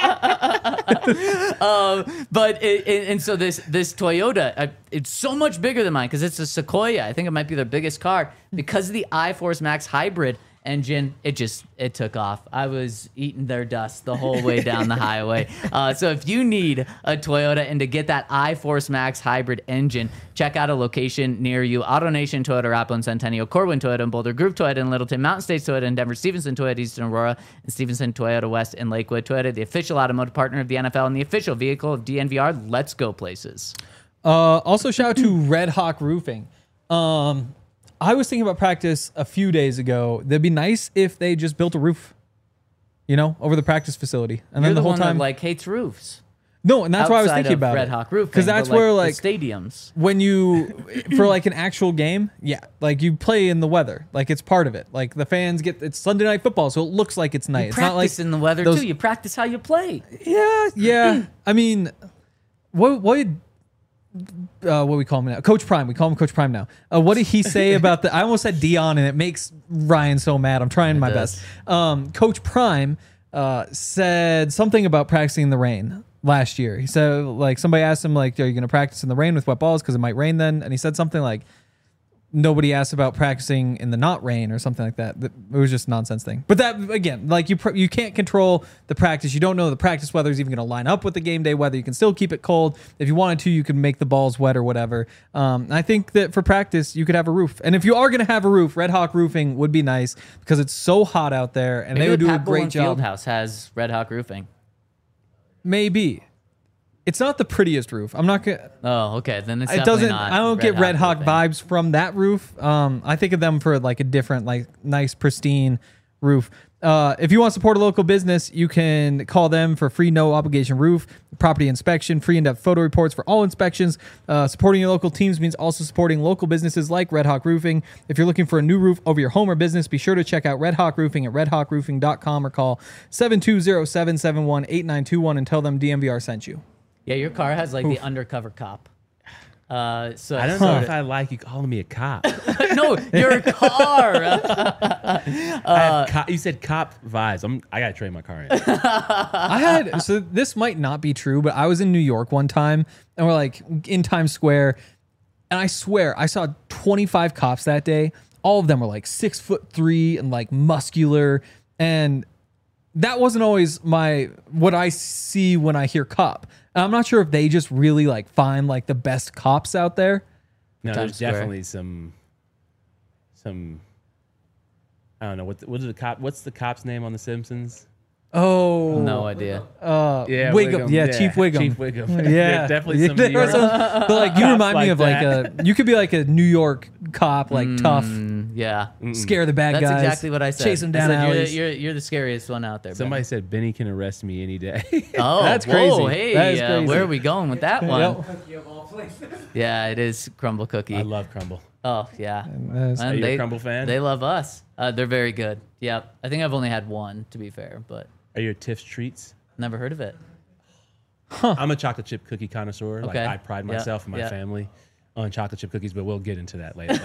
A: um, but it, it, and so this this Toyota, uh, it's so much bigger than mine because it's a Sequoia. I think it might be their biggest car because of the iForce Max hybrid engine. It just it took off. I was eating their dust the whole way down the highway. Uh, so if you need a Toyota and to get that iForce Max hybrid engine, check out a location near you. AutoNation Toyota, Rapplin, Centennial, Corwin Toyota, and Boulder, Groove Toyota in Littleton, Mountain States Toyota in Denver, Stevenson Toyota, Eastern Aurora, and Stevenson Toyota West in Lakewood. Toyota, the official automotive partner of the N F L and the official vehicle of D N V R. Let's go places.
C: Uh, also, shout out to Red Hawk Roofing. Um, I was thinking about practice a few days ago. That'd be nice if they just built a roof, you know, over the practice facility, and
A: You're
C: then the,
A: the
C: whole
A: one
C: time,
A: that, like, hates roofs.
C: no, and that's why I was
A: Outside
C: thinking
A: of
C: about
A: Red
C: it.
A: Hawk Roofing,
C: because that's
A: but, like,
C: where
A: the
C: like
A: stadiums.
C: when you for like an actual game, yeah, like you play in the weather, like it's part of it. Like the fans get it's Sunday night football, so it looks like it's night.
A: You
C: It's
A: practice
C: not like
A: in the weather
C: those-
A: too. You practice how you play.
C: Yeah, yeah. I mean, what what uh, what we call him now? Coach Prime. We call him Coach Prime now. Uh, what did he say about the? I almost said Dion, and it makes Ryan so mad. I'm trying
A: It
C: my
A: does.
C: best. Um, Coach Prime uh, said something about practicing in the rain last year. He said like somebody asked him like, "Are you going to practice in the rain with wet balls because it might rain then?" And he said something like, nobody asked about practicing in the not rain or something like that. It was just a nonsense thing. But that, again, like you pr- you can't control the practice. You don't know the practice weather is even going to line up with the game day weather. You can still keep it cold. If you wanted to, you can make the balls wet or whatever. Um, I think that for practice, you could have a roof. And if you are going to have a roof, Red Hawk Roofing would be nice because it's so hot out there and
A: Maybe
C: they would
A: the
C: do a
A: Pat
C: great
A: Bowlen
C: job.
A: Fieldhouse has Red Hawk Roofing.
C: Maybe. It's not the prettiest roof. I'm not gonna.
A: Oh, okay. Then it's
C: It
A: definitely
C: doesn't.
A: not
C: I don't get Red Hawk
A: Roofing.
C: vibes from that roof. Um, I think of them for like a different, like nice, pristine roof. Uh, if you want to support a local business, you can call them for free, no obligation roof, property inspection, free in-depth photo reports for all inspections. Uh, supporting your local teams means also supporting local businesses like Red Hawk Roofing. If you're looking for a new roof over your home or business, be sure to check out Red Hawk Roofing at red hawk roofing dot com or call seven two zero, seven seven one, eight nine two one and tell them D M V R sent you.
A: Yeah, your car has like the undercover cop. Uh, so
B: I don't know if I like you calling me a cop.
A: no, your car.
B: I have co- you said cop vibes. I'm, I gotta trade my car in.
C: I had so this might not be true, but I was in New York one time and we're like in Times Square, and I swear I saw twenty-five cops that day. All of them were like six foot three and like muscular, and that wasn't always my what I see when I hear cop. And I'm not sure if they just really like find like the best cops out there.
B: No,
A: Times
B: there's
A: Square.
B: definitely some some. I don't know what the, what is the cop. What's the cop's name on The Simpsons?
C: Oh,
A: No idea.
C: uh, Wiggum. Yeah, Chief Wiggum.
B: Chief Wiggum.
C: Yeah,
B: There's definitely some New
C: There are
B: York.
C: some- but like you
B: cops
C: remind me
B: like
C: of like a you could be like a New York cop, like tough,
A: Mm, yeah.
C: scare the bad
A: That's
C: guys.
A: exactly what I said.
C: Chase them
A: I
C: down
A: said, you're,
C: alleys.
A: you're, you're the scariest one out there.
B: Somebody
A: Ben.
B: said Benny can arrest me any day.
A: Oh,
C: That's
A: whoa,
C: crazy.
A: Hey,
C: That is
A: uh,
C: crazy.
A: where are we going with that one?
C: Yep.
A: Yeah, it is Crumble Cookie.
B: I love Crumble.
A: Oh, yeah.
C: That's-
A: And
B: Are you a
A: they,
B: Crumble fan?
A: They love us. Uh, they're very good. Yep. I think I've only had one, to be fair, but
B: Are you a Tiff's Treats?
A: never heard of it.
B: I'm a chocolate chip cookie connoisseur. Like
A: Okay.
B: I pride
A: Yeah,
B: myself and my
A: yeah.
B: family on chocolate chip cookies, but we'll get into that later.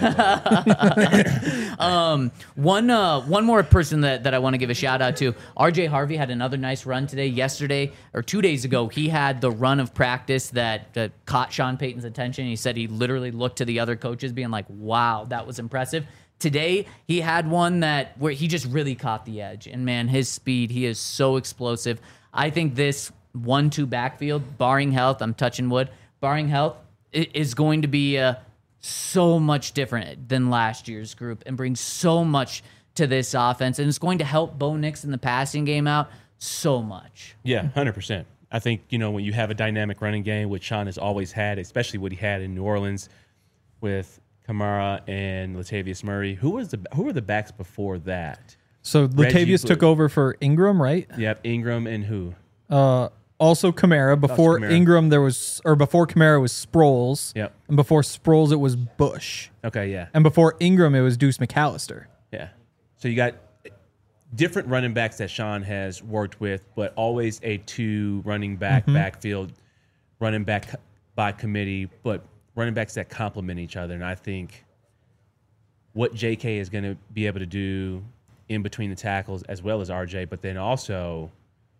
A: One uh, one more person that, that I want to give a shout out to. R J Harvey had another nice run today. Yesterday or two days ago, he had the run of practice that, that caught Sean Payton's attention. He said he literally looked to the other coaches being like, wow, that was impressive. Today, he had one that where he just really caught the edge. And man, his speed, he is so explosive. I think this one two backfield, barring health, I'm touching wood, barring health, i- is going to be uh, so much different than last year's group and bring so much to this offense. And it's going to help Bo Nix in the passing game out so much.
B: Yeah, one hundred percent. I think, you know, when you have a dynamic running game, which Sean has always had, especially what he had in New Orleans with Kamara and Latavius Murray. Who was the who were the backs before that?
C: So
B: Reggie
C: Latavius took
B: Blue.
C: over for Ingram, right?
B: Yep, Ingram and who?
C: Uh, also Kamara. Before
B: Kamara.
C: Ingram, there was, or before Kamara was Sproles.
B: Yep.
C: And before Sproles, it was Bush.
B: Okay, yeah.
C: And before Ingram, it was Deuce McAllister.
B: Yeah. So you got different running backs that Sean has worked with, but always a two running back backfield, running back by committee, but running backs that complement each other. And I think what J K is going to be able to do in between the tackles, as well as R J, but then also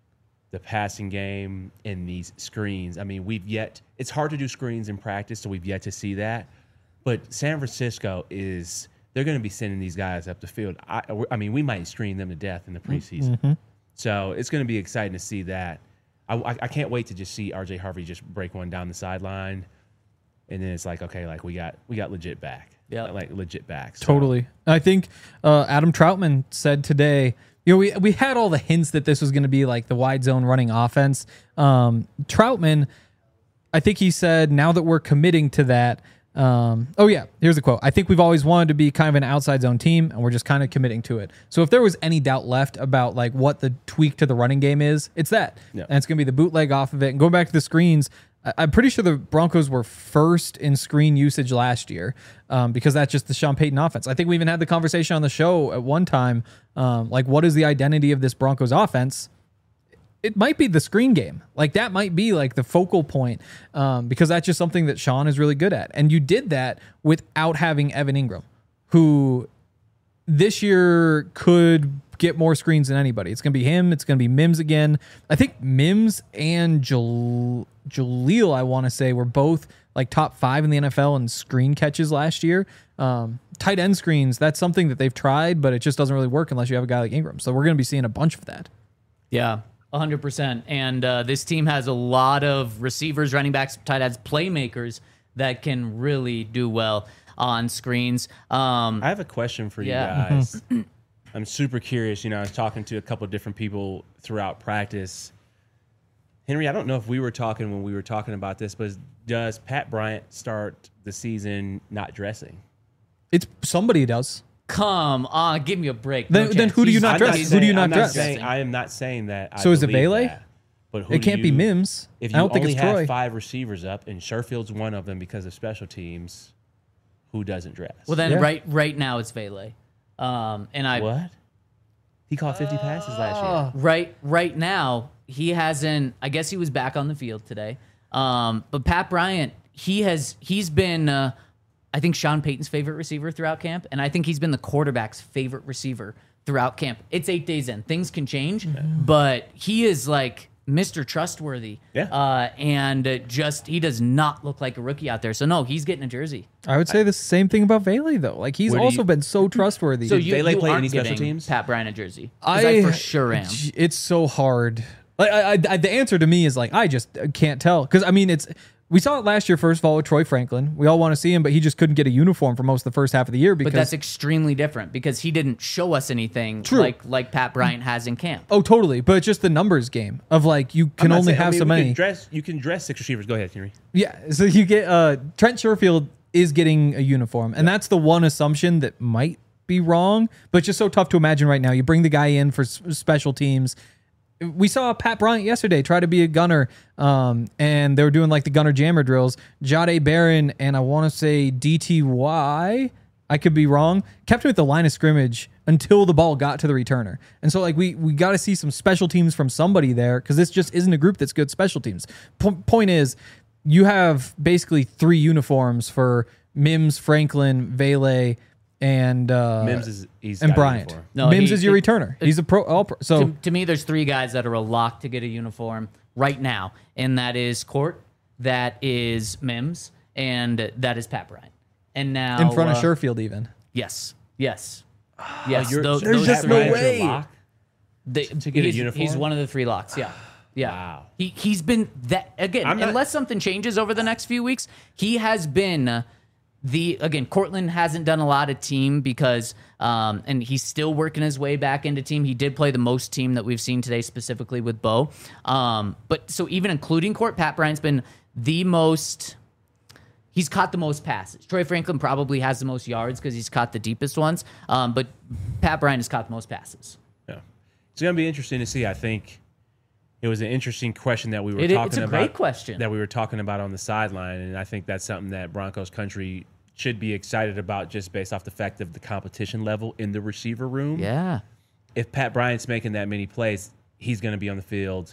B: the passing game and these screens. I mean, we've yet, it's hard to do screens in practice, so we've yet to see that. But San Francisco is, they're going to be sending these guys up the field. I, I mean, we might screen them to death in the preseason. So it's going to be exciting to see that. I, I, I can't wait to just see R J Harvey just break one down the sideline. And then it's like, okay, like we got we got legit back.
A: Yeah.
B: Like legit back. So,
C: Totally. I think uh, Adam Troutman said today, you know, we, we had all the hints that this was going to be like the wide zone running offense. Um, Troutman, I think he said, now that we're committing to that, um, oh yeah, here's the quote. I think we've always wanted to be kind of an outside zone team, and we're just kind of committing to it. So if there was any doubt left about like what the tweak to the running game is, it's that.
B: Yeah.
C: And it's going to be the bootleg off of it. And going back to the screens, I- I'm pretty sure the Broncos were first in screen usage last year um, because that's just the Sean Payton offense. I think we even had the conversation on the show at one time, um, like what is the identity of this Broncos offense? It might be the screen game. Like that might be like the focal point um, because that's just something that Sean is really good at. And you did that without having Evan Ingram, who this year could get more screens than anybody. It's going to be him. It's going to be Mims again. I think Mims and Jal- Jaleel, I want to say, were both like top five in the N F L in screen catches last year. Um, tight end screens, that's something that they've tried, but it just doesn't really work unless you have a guy like Ingram. So we're going to be seeing a bunch of that.
A: Yeah, one hundred percent. And uh, this team has a lot of receivers, running backs, tight ends, playmakers that can really do well on screens. Um,
B: I have a question for you
A: Yeah.
B: guys. I'm super curious. You know, I was talking to a couple of different people throughout practice. Henry, I don't know if we were talking when we were talking about this, but does Pat Bryant start the season not dressing?
C: It's somebody does.
A: come on, give me a break.
C: Then-
A: No
C: then
A: chance.
C: who do you
A: He's-
C: not
B: I'm
C: dress?
A: he's-
C: Who do you
B: saying-
C: not
B: I'm
C: dress?
B: saying- I am not saying that. I
C: So is it
B: believe
C: Vele?
B: that. But who
C: It
B: do
C: can't be
B: you-
C: Mims.
B: If
C: I
B: you
C: don't think
B: only
C: it's
B: have
C: Troy.
B: five receivers up, and Sherfield's one of them because of special teams, who doesn't dress?
A: Well, then
C: Yeah.
A: right right now it's Vele. Um, and I
B: what? He caught fifty passes last year.
A: right right now he hasn't. I guess he was back on the field today. Um, but Pat Bryant, he has he's been uh, I think Sean Payton's favorite receiver throughout camp, and I think he's been the quarterback's favorite receiver throughout camp. It's eight days in. Things can change, but he is like Mister Trustworthy.
B: Yeah.
A: Uh, and uh, just he does not look like a rookie out there. So no, he's getting a jersey.
C: I would say the same thing about Vele though. Like he's
B: Where do
C: also
B: you-
C: been so trustworthy.
A: So you,
B: Vele
A: you
B: play
A: aren't
B: any special
A: giving
B: teams?
A: Pat Bryant a jersey. 'Cause I, for sure am.
C: It's so hard. Like I, I, I, the answer to me is like I just can't tell because I mean it's we saw it last year first of all with Troy Franklin. We all want to see him, but he just couldn't get a uniform for most of the first half of the year because
A: But that's extremely different because he didn't show us anything
C: True.
A: like like Pat Bryant has in camp.
C: oh totally. But it's just the numbers game of like you
B: I'm
C: can
B: not
C: only
B: saying- I
C: have
B: mean,
C: so
B: we
C: many.
B: Can dress, you can dress six receivers. Go ahead, Henry.
C: Yeah, so you get uh Trent Sherfield is getting a uniform, and that's the one assumption that might be wrong, but it's just so tough to imagine right now. You bring the guy in for s- special teams. We saw Pat Bryant yesterday try to be a gunner, um, and they were doing like the gunner jammer drills. Jade Barron and I want to say D T Y, I could be wrong, kept him at the line of scrimmage until the ball got to the returner. And so like we we got to see some special teams from somebody there because this just isn't a group that's good special teams. P- point is, you have basically three uniforms for Mims, Franklin, Vele, and uh,
B: Mims is he's
C: and
B: got a
C: Bryant.
B: uniform.
A: No,
C: Mims
A: he-
C: is your
A: it-
C: returner. He's a pro. All pro so
A: to, to me, there's three guys that are a lock to get a uniform right now, and that is Court, that is Mims, and that is Pat Bryant. And now
C: in front of
A: uh,
C: Sherfield, even.
A: Yes, yes, yes.
B: You're-
A: those,
B: there's
A: those
C: just
A: three-
C: no
B: Bryant's your
C: way.
B: lock?
A: They-
B: to get a
A: he's,
B: uniform?
A: He's one of the three locks. Yeah, yeah.
B: Wow.
A: He he's been that again.
B: I'm not-
A: unless something changes over the next few weeks, he has been. Uh, The again, Cortland hasn't done a lot of team because, um, and he's still working his way back into team. He did play the most team that we've seen today, specifically with Bo. Um, but so even including Court, Pat Bryant's been the most. He's caught the most passes. Troy Franklin probably has the most yards because he's caught the deepest ones. Um, but Pat Bryant has caught the most passes.
B: Yeah. It's going to be interesting to see. I think it was an interesting question that we were
A: It-
B: talking
A: it's a
B: about.
A: great question.
B: That we were talking about on the sideline, and I think that's something that Broncos country should be excited about just based off the fact of the competition level in the receiver room.
A: Yeah.
B: If Pat Bryant's making that many plays, he's going to be on the field.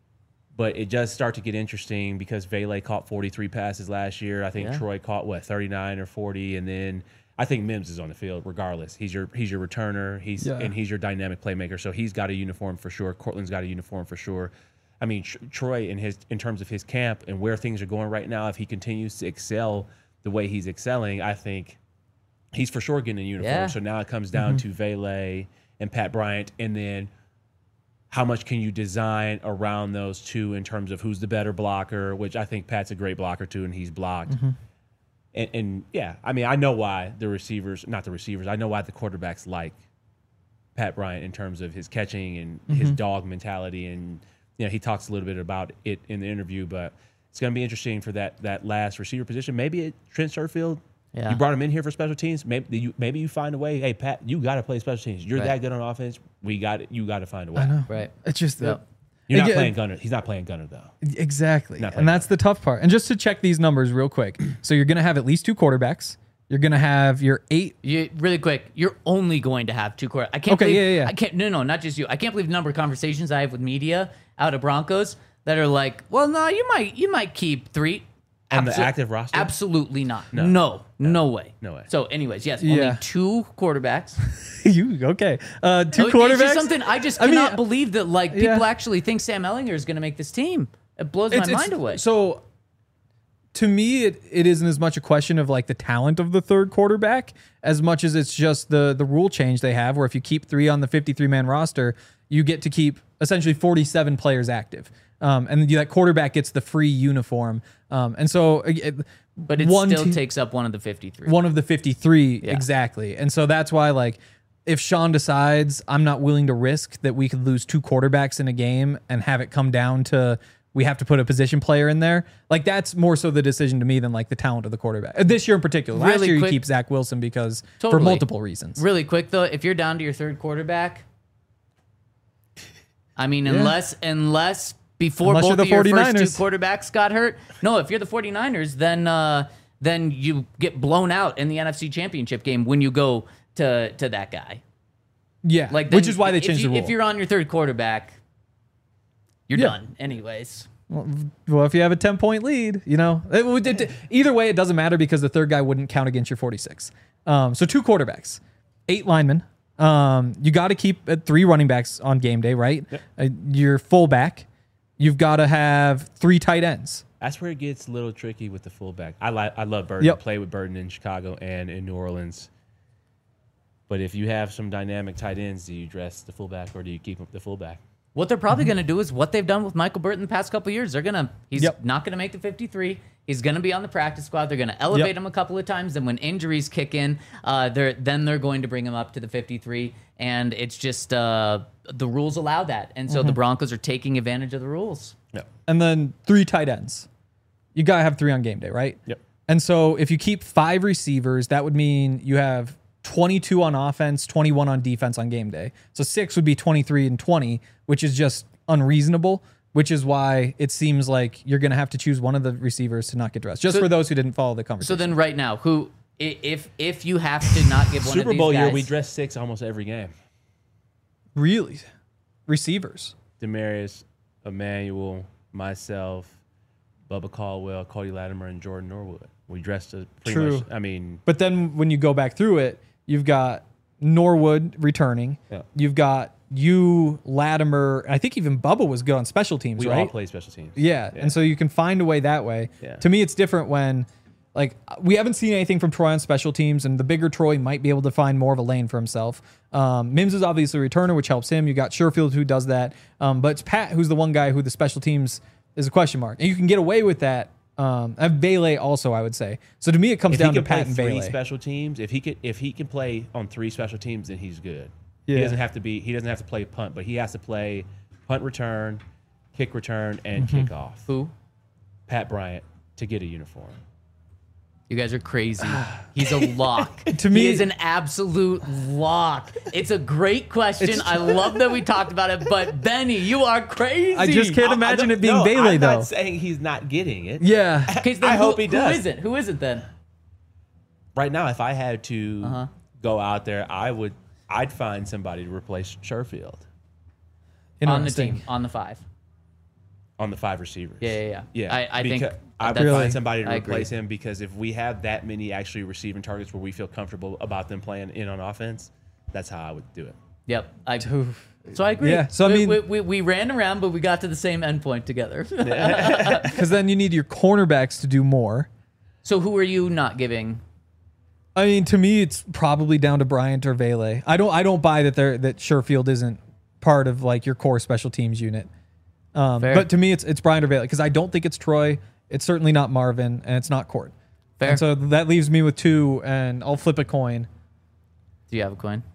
B: But it does start to get interesting because Vele caught forty-three passes last year. I think
A: Yeah.
B: Troy caught what thirty-nine or forty, and then I think Mims is on the field regardless. He's your he's your returner. He's
C: Yeah.
B: and he's your dynamic playmaker. So he's got a uniform for sure. Cortland's got a uniform for sure. I mean, Tr- Troy in his in terms of his camp and where things are going right now, if he continues to excel the way he's excelling, I think he's for sure getting a uniform.
A: Yeah.
B: So now it comes down to Vele and Pat Bryant, and then how much can you design around those two in terms of who's the better blocker, which I think Pat's a great blocker too, and he's blocked. And, and yeah, I mean, I know why the receivers, not the receivers, I know why the quarterbacks like Pat Bryant in terms of his catching and his dog mentality. And, you know, he talks a little bit about it in the interview, but it's going to be interesting for that that last receiver position. Maybe it, Trent Sherfield,
A: Yeah.
B: you brought him in here for special teams. Maybe you maybe you find a way. Hey, Pat, you got to play special teams. You're
A: Right.
B: that good on offense. We got it. You got to find a way.
C: I know.
A: Right.
C: It's just
A: Yep.
B: You're not
C: Again-
B: playing gunner. He's not playing gunner though.
C: exactly,
B: Not
C: and that's the tough part. And just to check these numbers real quick, so you're gonna have at least two quarterbacks. You're gonna have your eight.
A: You really quick. You're only going to have two quarter. I can't.
C: Okay,
A: believe,
C: yeah, yeah, yeah.
A: I can't. No, no, not just you. I can't believe the number of conversations I have with media out of Broncos that are like, "Well, no, you might, you might keep three
B: On the
A: Abso-
B: active roster?
A: Absolutely not. No, no, no, way.
B: No way.
A: So, anyways, yes,
C: Yeah.
A: only two quarterbacks.
C: you okay? Uh, two
A: Oh,
C: quarterbacks.
A: It's just something I just
C: I mean,
A: cannot believe that like people
C: yeah.
A: actually think Sam Ellinger is going to make this team. It blows
C: It's-
A: my
C: it's-
A: mind away.
C: So, to me, it, it isn't as much a question of like the talent of the third quarterback as much as it's just the the rule change they have, where if you keep three on the fifty-three man roster, you get to keep essentially forty-seven players active, um, and that quarterback gets the free uniform. Um, and so, it,
A: but it
C: one
A: still
C: te-
A: takes up one of the fifty-three.
C: one of the fifty-three
A: Yeah.
C: exactly. And so that's why like if Sean decides I'm not willing to risk that we could lose two quarterbacks in a game and have it come down to we have to put a position player in there, like that's more so the decision to me than like the talent of the quarterback. Uh, This year in particular. Last
A: Really
C: year
A: quick-
C: you keep Zach Wilson because for
A: Totally.
C: multiple reasons.
A: Really quick though, if you're down to your third quarterback, I mean, unless unless before
C: Unless
A: both
C: you're the
A: of your first
C: 49ers.
A: two quarterbacks got hurt, no, if you're the 49ers, then uh, then you get blown out in the N F C Championship game when you go to to that guy.
C: Yeah.
A: Like,
C: which
A: then
C: is why they
A: if
C: changed
A: you-
C: the rule.
A: If you're on your third quarterback, you're
C: Yeah.
A: done, anyways.
C: Well, if you have a ten point lead, you know, it, would- it- either way, it doesn't matter because the third guy wouldn't count against your forty-six. Um, so two quarterbacks, eight linemen. Um, you got to keep uh, three running backs on game day, right?
B: Yep.
C: Uh, your fullback. You've got to have three tight ends.
B: That's where it gets a little tricky with the fullback. I like I love Burton.
C: Yep.
B: Play with Burton in Chicago and in New Orleans. But if you have some dynamic tight ends, do you dress the fullback or do you keep the fullback?
A: What they're probably going to do is what they've done with Michael Burton the past couple of years. They're going to, he's
C: Yep.
A: not going to make the fifty-three. He's going to be on the practice squad. They're going to elevate
C: Yep.
A: him a couple of times. And when injuries kick in, uh, they're, then they're going to bring him up to the fifty-three. And it's just, uh, the rules allow that. And so the Broncos are taking advantage of the rules.
B: Yep.
C: And then three tight ends. You got to have three on game day, right?
B: Yep.
C: And so if you keep five receivers, that would mean you have twenty-two on offense, twenty-one on defense on game day. So six would be twenty-three and twenty, which is just unreasonable, which is why it seems like you're going to have to choose one of the receivers to not get dressed. Just
A: So-
C: for those who didn't follow the
A: So
C: conversation.
A: then right now, who, i- if, if you have to not give one of
B: Super
A: these
B: Bowl
A: guys,
B: year, we dress six almost every game.
C: Really? Receivers.
B: Demarius, Emmanuel, myself, Bubba Caldwell, Cody Latimer, and Jordan Norwood. We dressed a pretty
C: True.
B: much. I mean,
C: But then when you go back through it, you've got Norwood returning.
B: Yeah.
C: You've got you, Latimer. I think even Bubba was good on special teams,
B: we
C: right?
B: all play special teams.
C: Yeah. And so you can find a way that way.
B: Yeah.
C: To me, it's different when, like, we haven't seen anything from Troy on special teams, and the bigger Troy might be able to find more of a lane for himself. Um, Mims is obviously a returner, which helps him. You got Sherfield who does that. Um, but it's Pat who's the one guy who the special teams is a question mark. And you can get away with that. Um, and Bailey also, I would say. So to me, it comes
B: If
C: down
B: he
C: to
B: can play
C: Pat and
B: three
C: Bailey.
B: special teams, if he could, if he can play on three special teams, then he's good.
C: Yeah.
B: He doesn't have to be. He doesn't have to play punt, but he has to play punt return, kick return, and
C: Mm-hmm.
B: kickoff.
A: who?
B: Pat Bryant to get a uniform.
A: You guys are crazy. He's a lock.
C: To me-
A: he is an absolute lock. It's a great question. I love that we talked about it, but Benny, you are crazy.
C: I just can't imagine it being
B: no,
C: Bailey,
B: I'm
C: though.
B: not saying he's not getting it.
C: Yeah.
A: Okay, so then
B: I
A: who-
B: hope he does.
A: Who is it? Who is it then?
B: Right now, if I had to
A: Uh-huh.
B: go out there, I would. I'd find somebody to replace Sherfield
A: On the
C: Interesting.
A: team, on the five.
B: on the five receivers.
A: Yeah, yeah, yeah.
B: Yeah,
A: I- I think
B: because I would
A: that's-
C: Really?
B: find somebody to
A: I agree.
B: replace him because if we have that many actually receiving targets where we feel comfortable about them playing in on offense, that's how I would do it.
A: Yep. I,
C: Oof.
A: so I agree.
C: Yeah, so I
A: we,
C: mean-
A: we, we, we ran around, but we got to the same endpoint together.
C: Because then you need your cornerbacks to do more.
A: So who are you not giving?
C: I mean, to me, it's probably down to Bryant or Vele. I don't. I don't buy that they're that Sherfield isn't part of like your core special teams unit. Um,
A: Fair.
C: but to me, it's it's Bryant or Vele because I don't think it's Troy. It's certainly not Marvin, and it's not Court.
A: Fair.
C: And so that leaves me with two, and I'll flip a coin.
A: Do you have a coin?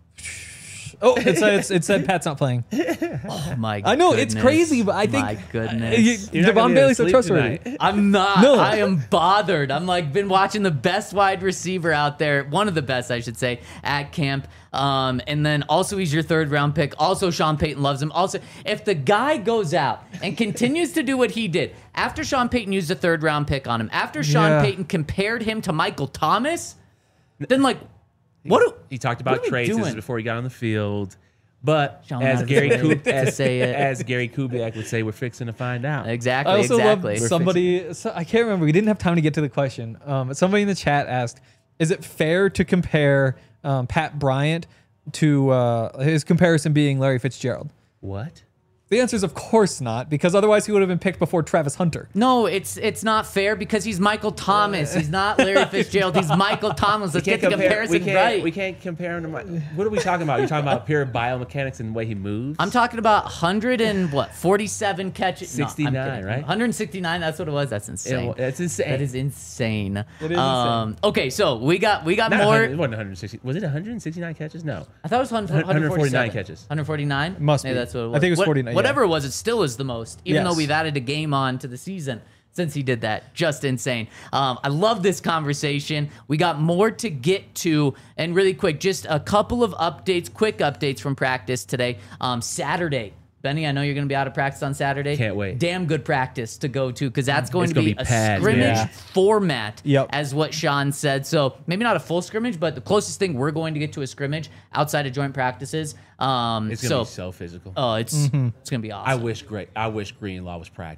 C: Oh, it said it's, it said Pat's not playing.
A: Oh my!
C: I know, it's
A: goodness.
C: crazy, but I think-
A: my
C: Uh,
A: goodness.
C: you-
B: You're not gonna
C: Devon
B: be able to
C: Bailey's so
B: sleep
C: trustworthy.
B: tonight.
A: I'm not.
C: No.
A: I am bothered. I'm like been watching the best wide receiver out there, one of the best, I should say, at camp. Um, and then also he's your third round pick. Also, Sean Payton loves him. Also, if the guy goes out and continues to do what he did after Sean Payton used a third round pick on him, after Sean
C: Yeah.
A: Payton compared him to Michael Thomas, then like, what? Do,
B: He talked
A: What
B: about
A: are we
B: traits
A: doing?
B: before he got on the field. But
A: Sean
B: as
A: has
B: Gary
A: to
B: Kub-
A: to
B: as,
A: say it.
B: as Gary Kubiak would say, we're fixing to find out.
A: exactly.
C: I also
A: exactly.
C: love somebody. So I can't remember. We didn't have time to get to the question. Um, but somebody in the chat asked, "Is it fair to compare um, Pat Bryant to uh, his comparison being Larry Fitzgerald?"
B: What?
C: The answer is of course not, because otherwise he would have been picked before Travis Hunter.
A: No, it's it's not fair because he's Michael Thomas. He's not Larry Fitzgerald. He's Michael Thomas. Let's get the comparison
B: we can't,
A: right.
B: We can't compare him to my. What are we talking about? You're talking about pure biomechanics and the way he moves?
A: I'm talking about one hundred and what, forty-seven catches. No, I'm
B: sixty-nine,
A: kidding.
B: right?
A: one hundred sixty-nine. That's what it was. That's insane.
B: Yeah, that's insane.
A: That is insane.
C: It is
A: um, Okay, so we got we got
B: Not
A: more.
B: one hundred, it wasn't one hundred sixty. Was it one hundred sixty-nine catches? No.
A: I thought it was one
B: one hundred forty-nine
A: forty-seven.
B: catches.
A: one forty-nine.
C: Must
A: Maybe
C: be.
A: that's what it was.
C: I think it was
A: What-
C: forty-nine, yeah.
A: Whatever it was, it still is the most. Even
C: Yes.
A: though we've added a game on to the season since he did that. Just insane. Um, I love this conversation. We got more to get to. And really quick, just a couple of updates, quick updates from practice today. Um, Saturday. Benny, I know you're going to be out of practice on Saturday.
B: Can't wait.
A: Damn good practice to go to because that's going
B: It's
A: to
B: gonna
A: be,
B: be
A: a
B: pads,
A: scrimmage
C: yeah.
A: format,
C: Yep.
A: as what Sean said. So maybe not a full scrimmage, but the closest thing we're going to get to a scrimmage outside of joint practices. Um,
B: It's gonna
A: so,
B: be so physical.
A: oh, it's it's gonna be awesome.
B: I wish great. I wish Greenlaw was practicing.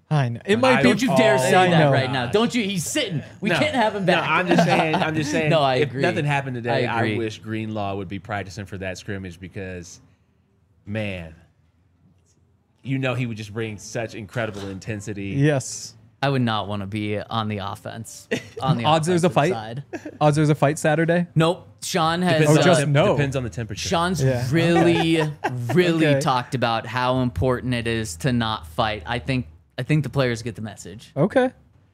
C: I know. It might
B: I
C: be.
A: Don't you dare
C: Oh,
A: say
C: I
A: that
C: know.
A: right now. Don't you? He's sitting. We
B: No.
A: can't have him
B: No,
A: back.
B: I'm just saying. I'm just saying.
A: No, I
B: if
A: agree.
B: nothing happened today,
A: I
B: I,
A: agree.
B: wish Greenlaw would be practicing for that scrimmage because, man, you know he would just bring such incredible intensity.
C: Yes.
A: I would not want to be on the offense. On the
C: Odds there's a
A: offensive
C: fight?
A: side.
C: Odds there's a fight Saturday?
A: Nope. Sean has.
B: Depends,
C: Oh,
B: on
A: uh,
C: just
B: the,
C: no.
B: depends on the temperature.
A: Sean's
C: Yeah.
A: really, really
C: Okay.
A: talked about how important it is to not fight. I think. I think the players get the message.
C: Okay.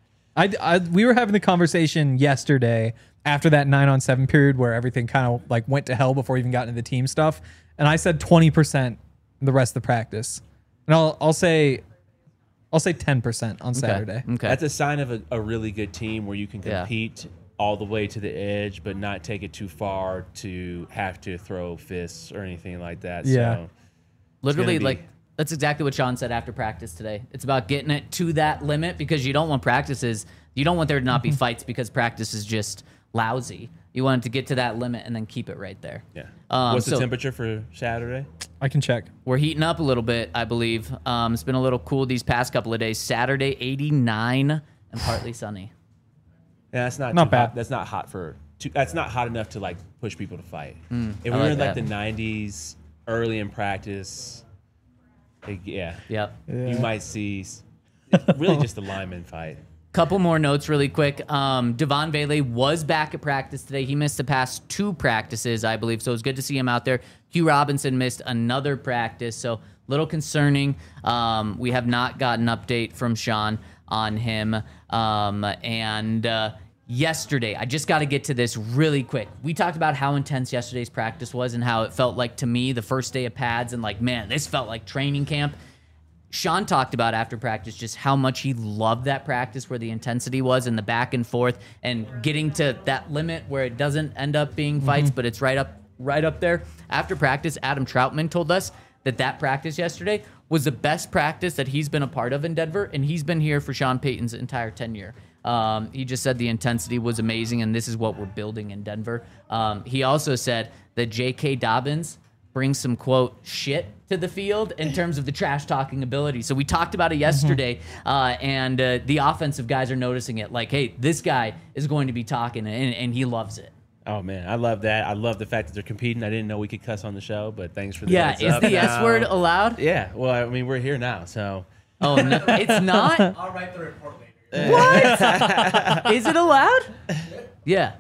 C: I, I we were having the conversation yesterday after that nine on seven period where everything kind of like went to hell before we even got into the team stuff, and I said twenty percent the rest of the practice, and I'll I'll say I'll say ten percent on Saturday.
A: Okay.
B: That's a sign of a, a really good team where you can
A: Yeah.
B: compete all the way to the edge, but not take it too far to have to throw fists or anything like that.
C: Yeah.
B: So
A: Literally,
B: be-
A: like that's exactly what Sean said after practice today. It's about getting it to that limit because you don't want practices. You don't want there to not
C: Mm-hmm.
A: be fights because practice is just lousy. You want it to get to that limit and then keep it right there.
B: yeah.
A: Um,
B: What's the
A: so-
B: temperature for Saturday?
C: I can check.
A: We're heating up a little bit, I believe. Um, it's been a little cool these past couple of days. Saturday, eighty-nine and partly sunny.
B: Yeah, that's not
C: Not
B: too
C: bad.
B: Hot. That's not hot for. Too, that's not hot enough to like push people to fight. if
A: I
B: we were
A: like
B: in like
A: that.
B: the nineties, early in practice, it- yeah,
A: Yep.
B: you might see s- really just a lineman fight.
A: Couple more notes really quick. Um, Devon Bailey was back at practice today. He missed the past two practices, I believe, so it was good to see him out there. Hugh Robinson missed another practice, so a little concerning. Um, we have not gotten an update from Sean on him. Um, and uh, yesterday, I just got to get to this really quick. We talked about how intense yesterday's practice was and how it felt like to me the first day of pads and like, man, this felt like training camp. Sean talked about after practice just how much he loved that practice where the intensity was and the back and forth and getting to that limit where it doesn't end up being fights, but it's right up right up there. After practice, Adam Troutman told us that that practice yesterday was the best practice that he's been a part of in Denver, and he's been here for Sean Payton's entire tenure. Um, he just said the intensity was amazing, and this is what we're building in Denver. Um, he also said that J K. Dobbins brings some, quote, shit to the field in terms of the trash talking ability. So we talked about it yesterday, uh, and uh, the offensive guys are noticing it. Like, hey, this guy is going to be talking, and, and he loves it.
B: Oh man, I love that. I love the fact that they're competing. I didn't know we could cuss on the show, but thanks for the
A: Yeah,
B: heads
A: is
B: up
A: the
B: now.
A: S word allowed?
B: Yeah, well, I mean, we're here now, so
A: Oh, no, it's not?
F: I'll write the report later.
A: What? Is it allowed? Yeah.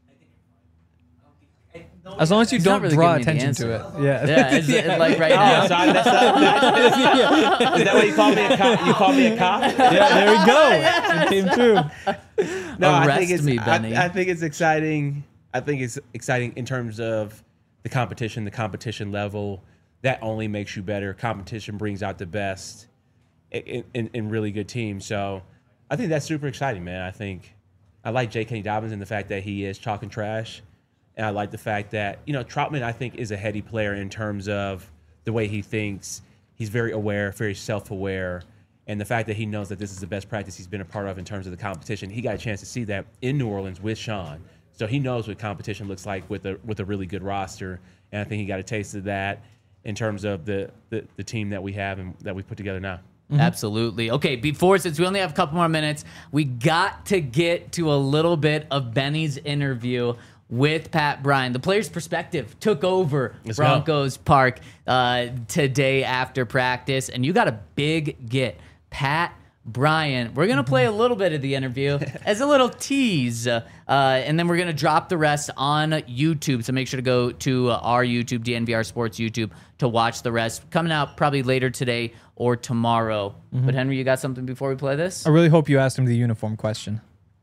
C: As long as you
A: He's not
C: don't
A: really
C: draw
A: giving me the
C: attention to
A: answer.
C: it. Yeah.
A: Yeah, is it like right
B: Oh,
A: now?
B: sorry, that's not, that's, is that what you call me? A cop? You call me a cop?
C: Yeah, there we go. It came true.
B: No, I
A: Arrest
B: think it's,
A: me,
B: I-
A: Benny.
B: I, think it's exciting. I think it's exciting in terms of the competition, the competition level. That only makes you better. Competition brings out the best in, in, in really good teams. So I think that's super exciting, man. I think I like J K. Dobbins and the fact that he is talking trash. And I like the fact that, you know, Troutman, I think, is a heady player in terms of the way he thinks. He's very aware, very self-aware. And the fact that he knows that this is the best practice he's been a part of in terms of the competition. He got a chance to see that in New Orleans with Sean. So he knows what competition looks like with a with a really good roster. And I think he got a taste of that in terms of the, the, the team that we have and that we put together now.
A: Absolutely. Okay, before, since we only have a couple more minutes, we got to get to a little bit of Benny's interview with Pat Bryant. The player's perspective took over
B: Let's go.
A: Broncos Park uh, today after practice, and you got a big get. Pat Bryant. We're going to play a little bit of the interview as a little tease, uh, and then we're going to drop the rest on YouTube. So make sure to go to uh, our YouTube, D N V R Sports YouTube, to watch the rest. Coming out probably later today or tomorrow. But Henry, you got something before we play this?
C: I really hope you asked him the uniform question.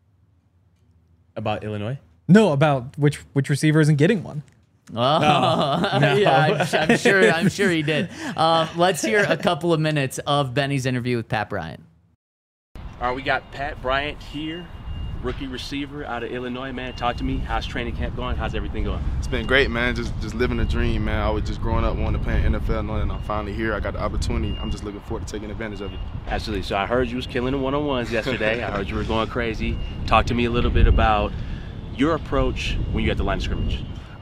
B: About Illinois?
C: No, about which which receiver isn't getting one.
A: Oh, yeah, I'm, I'm sure. I'm sure he did. Uh, let's hear a couple of minutes of Benny's interview with Pat Bryant.
G: All right, we got Pat Bryant here, rookie receiver out of Illinois, man. Talk to me. How's training camp going? How's everything going?
H: It's been great, man. Just just living a dream, man. I was just growing up wanting to play in N F L, knowing I'm finally here. I got the opportunity. I'm just looking forward to taking advantage of it.
G: Absolutely. So I heard you was killing the one-on-ones yesterday. I heard you were going crazy. Talk to me a little bit about your approach when you at the line of scrimmage.
H: I mean,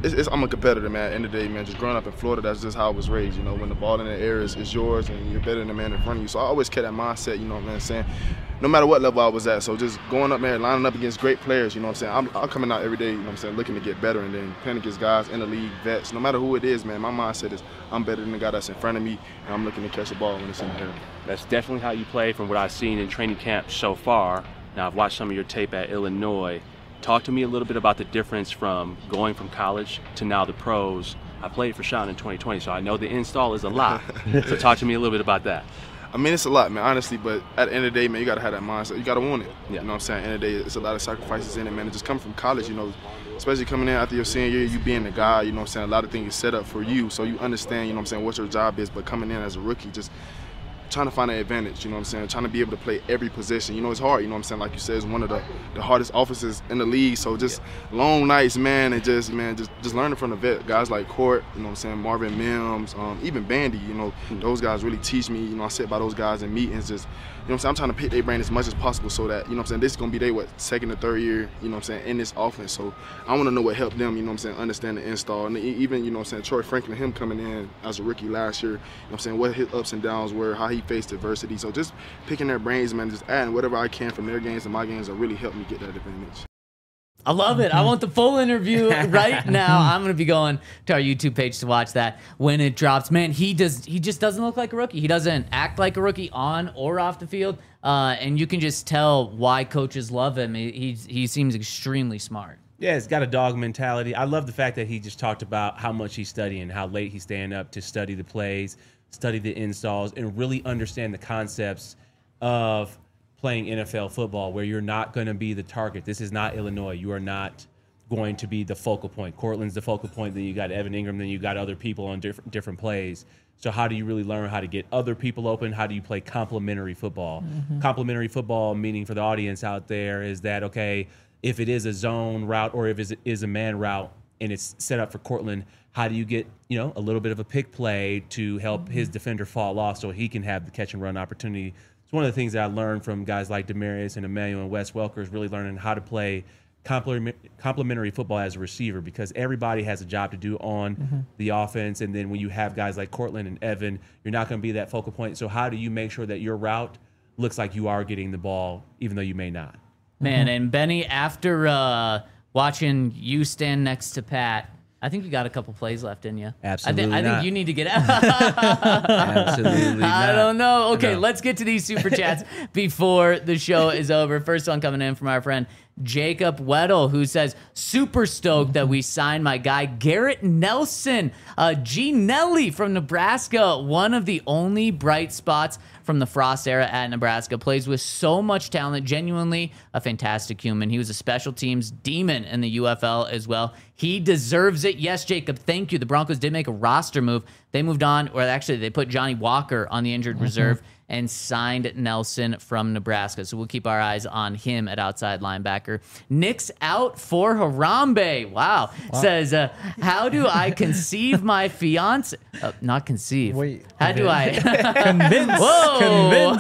H: it's, it's, I'm a competitor, man. At the end of the day, man, just growing up in Florida, that's just how I was raised. You know, when the ball in the air is, is yours and you're better than the man in front of you. So I always kept that mindset, you know what I'm saying, no matter what level I was at. So just going up there, lining up against great players, you know what I'm saying. I'm, I'm coming out every day, you know what I'm saying, looking to get better and then playing against guys in the league, vets. No matter who it is, man, my mindset is I'm better than the guy that's in front of me, and I'm looking to catch the ball when it's in the air.
G: That's definitely how you play from what I've seen in training camp so far. Now, I've watched some of your tape at Illinois. Talk to me a little bit about the difference from going from college to now the pros. I played for Sean in twenty twenty, so I know the install is a lot. So talk to me a little bit about that.
H: I mean, it's a lot, man, honestly, but at the end of the day, man, you got to have that mindset. You got to want it.
G: Yeah.
H: You know what I'm saying? At the end of the day, it's a lot of sacrifices in it, man. It just coming from college, you know, especially coming in after your senior year, you being the guy, you know what I'm saying, a lot of things are set up for you, so you understand, you know what I'm saying, what your job is, but coming in as a rookie, just trying to find an advantage, you know what I'm saying, trying to be able to play every position. You know, it's hard, you know what I'm saying, like you said, it's one of the, the hardest offenses in the league, so just yeah. long nights, man, and just, man, just, just learning from the vet, guys like Court, you know what I'm saying, Marvin Mims, um, even Bandy, you know, mm-hmm. those guys really teach me, you know, I sit by those guys in meetings, just, you know what I'm saying, I'm trying to pick their brain as much as possible so that, you know what I'm saying, this is going to be their, what, second or third year, you know what I'm saying, in this offense, so I want to know what helped them, you know what I'm saying, understand the install, and even, you know what I'm saying, Troy Franklin, him coming in as a rookie last year, you know what I'm saying, what his ups and downs were, how he faced adversity. So just picking their brains, man, just adding whatever I can from their games and my games will really help me get that advantage.
A: I love it. I want the full interview right now. I'm going to be going to our YouTube page to watch that when it drops. Man, he does. He just doesn't look like a rookie. He doesn't act like a rookie on or off the field. Uh, and you can just tell why coaches love him. He, he's, he seems extremely smart.
B: Yeah, he's got a dog mentality. I love the fact that he just talked about how much he's studying, how late he's staying up to study the plays, study the installs, and really understand the concepts of playing N F L football, where you're not going to be the target. This is not Illinois. You are not going to be the focal point. Cortland's the focal point. Then you got Evan Ingram. Then you got other people on different different plays. So how do you really learn how to get other people open? How do you play complementary football? Mm-hmm. Complementary football, meaning for the audience out there, is that, okay, if it is a zone route or if it is a man route and it's set up for Cortland, how do you get, you know, a little bit of a pick play to help his defender fall off so he can have the catch and run opportunity? It's one of the things that I learned from guys like Demarius and Emmanuel and Wes Welker, is really learning how to play complementary football as a receiver, because everybody has a job to do on mm-hmm. the offense. And then when you have guys like Cortland and Evan, you're not going to be that focal point. So how do you make sure that your route looks like you are getting the ball, even though you may not?
A: Man, and Benny, after uh, watching you stand next to Pat, I think you got a couple plays left in you.
B: Absolutely
A: I, th- I
B: not.
A: think you need to get out.
B: Absolutely not.
A: I don't know. Okay,
B: No.
A: let's get to these super chats before the show is over. First one coming in from our friend Jacob Weddle, who says, super stoked that we signed my guy Garrett Nelson. Uh, G. Nelly from Nebraska, one of the only bright spots from the Frost era at Nebraska, plays with so much talent, genuinely a fantastic human. He was a special teams demon in the U F L as well. He deserves it. Yes, Jacob, thank you. The Broncos did make a roster move. They moved on, or actually they put Johnny Walker on the injured mm-hmm. reserve and signed Nelson from Nebraska. So we'll keep our eyes on him at outside linebacker. Nick's out for Harambe. Wow. wow. Says, uh, how do I conceive my fiance? Uh, not conceive.
C: Wait.
A: How do I?
C: Convince.
A: Whoa.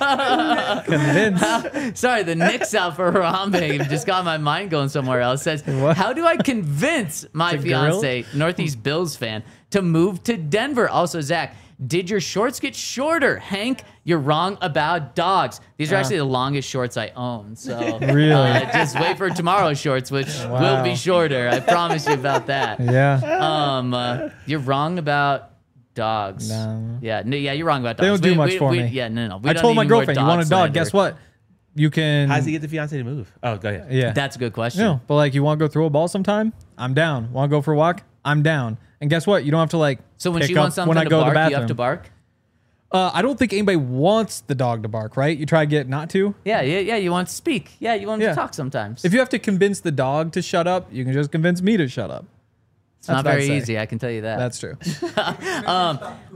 C: Convince. Convince.
A: Sorry, the Nick's out for Harambe just got my mind going somewhere else. Says,
C: What?
A: how do I convince my
C: The
A: fiance, Northeast Bills fan, to move to Denver? Also, Zach, did your shorts get shorter? Hank, you're wrong about dogs. These are
C: Uh.
A: actually the longest shorts I own. So
C: Really?
A: uh, just wait for tomorrow's shorts, which
C: Wow.
A: will be shorter. I promise you about that.
C: Yeah.
A: Um, uh, you're wrong about dogs.
C: No.
A: Yeah, no, yeah, you're wrong about dogs.
C: They don't do
A: We-
C: much
A: we-
C: for
A: we-
C: me.
A: Yeah, no, no. We
C: I
A: don't
C: told
A: need
C: my
A: any more
C: girlfriend, you want a dog.
A: slander.
C: Guess what? You can.
B: How does he get the fiance to move? Oh, go ahead.
C: Yeah.
A: That's a good question.
C: No, but like, you want to go throw a ball sometime? I'm down. Want to go for a walk? I'm down. And guess what? You don't have to like.
A: So when
C: pick
A: she
C: up
A: wants something
C: when I
A: to
C: go to
A: bark,
C: the
A: you
C: bathroom.
A: have to bark?
C: Uh, I don't think anybody wants the dog to bark, right? You try to get it not to.
A: Yeah, yeah, yeah. You want to speak. Yeah, you want
C: Yeah.
A: to talk sometimes.
C: If you have to convince the dog to shut up, you can just convince me to shut up.
A: It's not
C: That's what
A: very
C: I'd say.
A: easy, I can tell you that.
C: That's true.
A: um,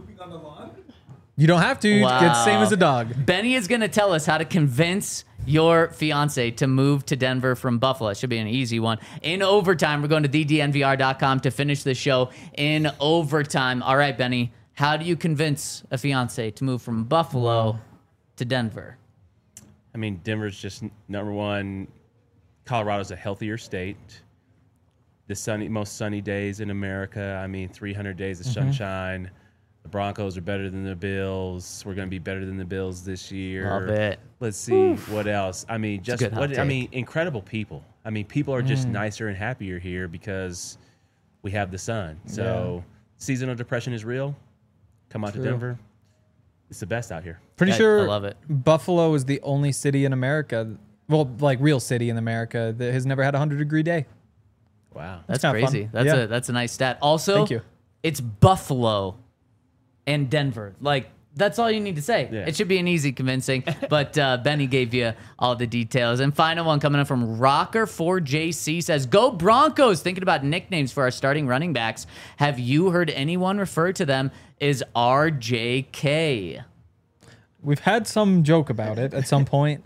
C: You don't have to. You
A: Wow.
C: get the same as a dog.
A: Benny is going to tell us how to convince your fiance to move to Denver from Buffalo. It should be an easy one. In overtime, we're going to the d n v r dot com to finish the show in overtime. All right, Benny, how do you convince a fiance to move from Buffalo to Denver?
B: I mean, Denver's just number one. Colorado's a healthier state. the sunny, most sunny days in America. I mean, three hundred days of
C: Mm-hmm.
B: sunshine. The Broncos are better than the Bills. We're going to be better than the Bills this year.
A: Love it.
B: Let's see what else. I mean, just
A: good hot
B: what I
A: take.
B: mean, incredible people. I mean, people are
C: Mm.
B: just nicer and happier here because we have the sun. So, seasonal depression is real. Come out
C: True.
B: to Denver. It's the best out here.
C: Pretty
A: I-
C: sure
A: I love it.
C: Buffalo is the only city in America, well, like real city in America, that has never had a hundred degree day.
B: Wow.
A: That's
C: kinda fun.
A: crazy. That's
C: Yeah.
A: a that's a nice stat. Also,
C: Thank you.
A: it's Buffalo and Denver. Like that's all you need to say.
B: Yeah.
A: It should be an easy convincing. But uh, Benny gave you all the details. And final one coming up from Rocker four J C says, "Go Broncos!" Thinking about nicknames for our starting running backs. Have you heard anyone refer to them as R J K?
C: We've had some joke about it at some point.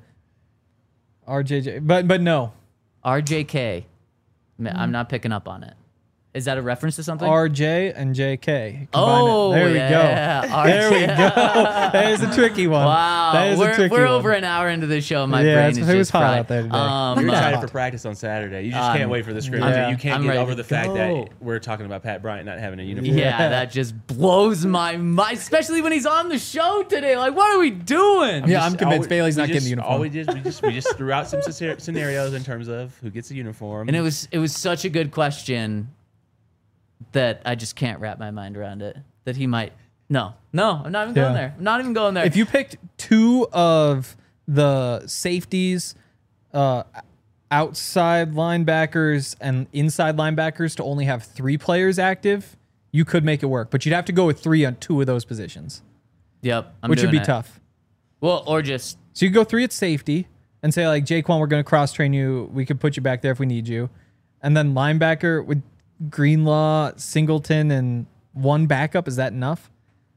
C: R J J, but but no.
A: R J K. Ma- I'm not picking up on it. Is that a reference to something?
C: R J and J K. Combine
A: Oh,
C: it. There we
A: yeah.
C: go.
A: R J.
C: There we go. That is a tricky one.
A: Wow,
C: That is
A: we're,
C: a tricky
A: we're
C: one.
A: over an hour into the show. My
C: Yeah,
A: brain
C: it's-
A: is
C: it was
A: just
C: hot
A: fried.
C: out there today.
A: Um,
B: You're
A: uh,
B: excited for practice on Saturday. You just
A: Um,
B: can't wait for the scrimmage.
C: yeah.
B: You can't
A: I'm
B: get
A: ready
B: over
A: to
B: the fact
A: go.
B: that we're talking about Pat Bryant not having a uniform.
A: yeah,
C: Yeah.
A: that just blows my mind, especially when he's on the show today. Like, what are we doing?
C: Yeah, I'm
B: Just-
C: convinced
B: all-
C: Bailey's
B: we
C: not getting
B: just-
C: the uniform.
B: All we just we just we just threw out some scenar- scenarios in terms of who gets a uniform.
A: And it was it was such a good question that I just can't wrap my mind around it. That he might. No, no, I'm not even going
C: Yeah.
A: there. I'm not even going there.
C: If you picked two of the safeties, uh, outside linebackers and inside linebackers to only have three players active, you could make it work. But you'd have to go with three on two of those positions,
A: yep, I'm
C: which would
A: doing
C: be
A: it.
C: tough.
A: Well, or just
C: So you could go three at safety and say, like, Jaquan, we're going to cross train you. We could put you back there if we need you. And then linebacker with Greenlaw, Singleton, and one backup. Is that enough?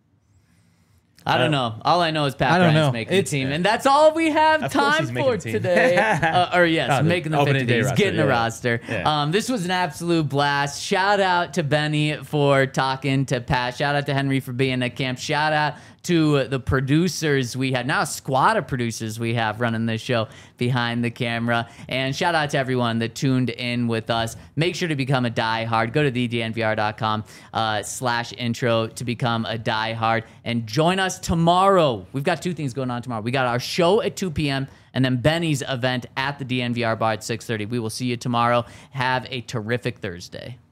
A: I don't know. All I know is Pat
C: I don't
A: Bryant's
C: know.
A: making
C: It's-
A: the team, and that's all we have
B: Of course
A: time
B: he's making
A: for
B: the team.
A: today. uh, or yes,
B: Oh, the
A: making the
B: opening
A: fifty
B: day
A: days,
B: roster,
A: getting the
B: yeah.
A: roster.
B: Yeah.
A: Um, this was an absolute blast. Shout out to Benny for talking to Pat. Shout out to Henry for being at camp. Shout out to the producers we had, now a squad of producers we have running this show behind the camera. And shout out to everyone that tuned in with us. Make sure to become a diehard. Go to the D N V R dot com uh, slash intro to become a diehard. And join us tomorrow. We've got two things going on tomorrow. We got our show at two p.m. and then Benny's event at the D N V R bar at six thirty. We will see you tomorrow. Have a terrific Thursday.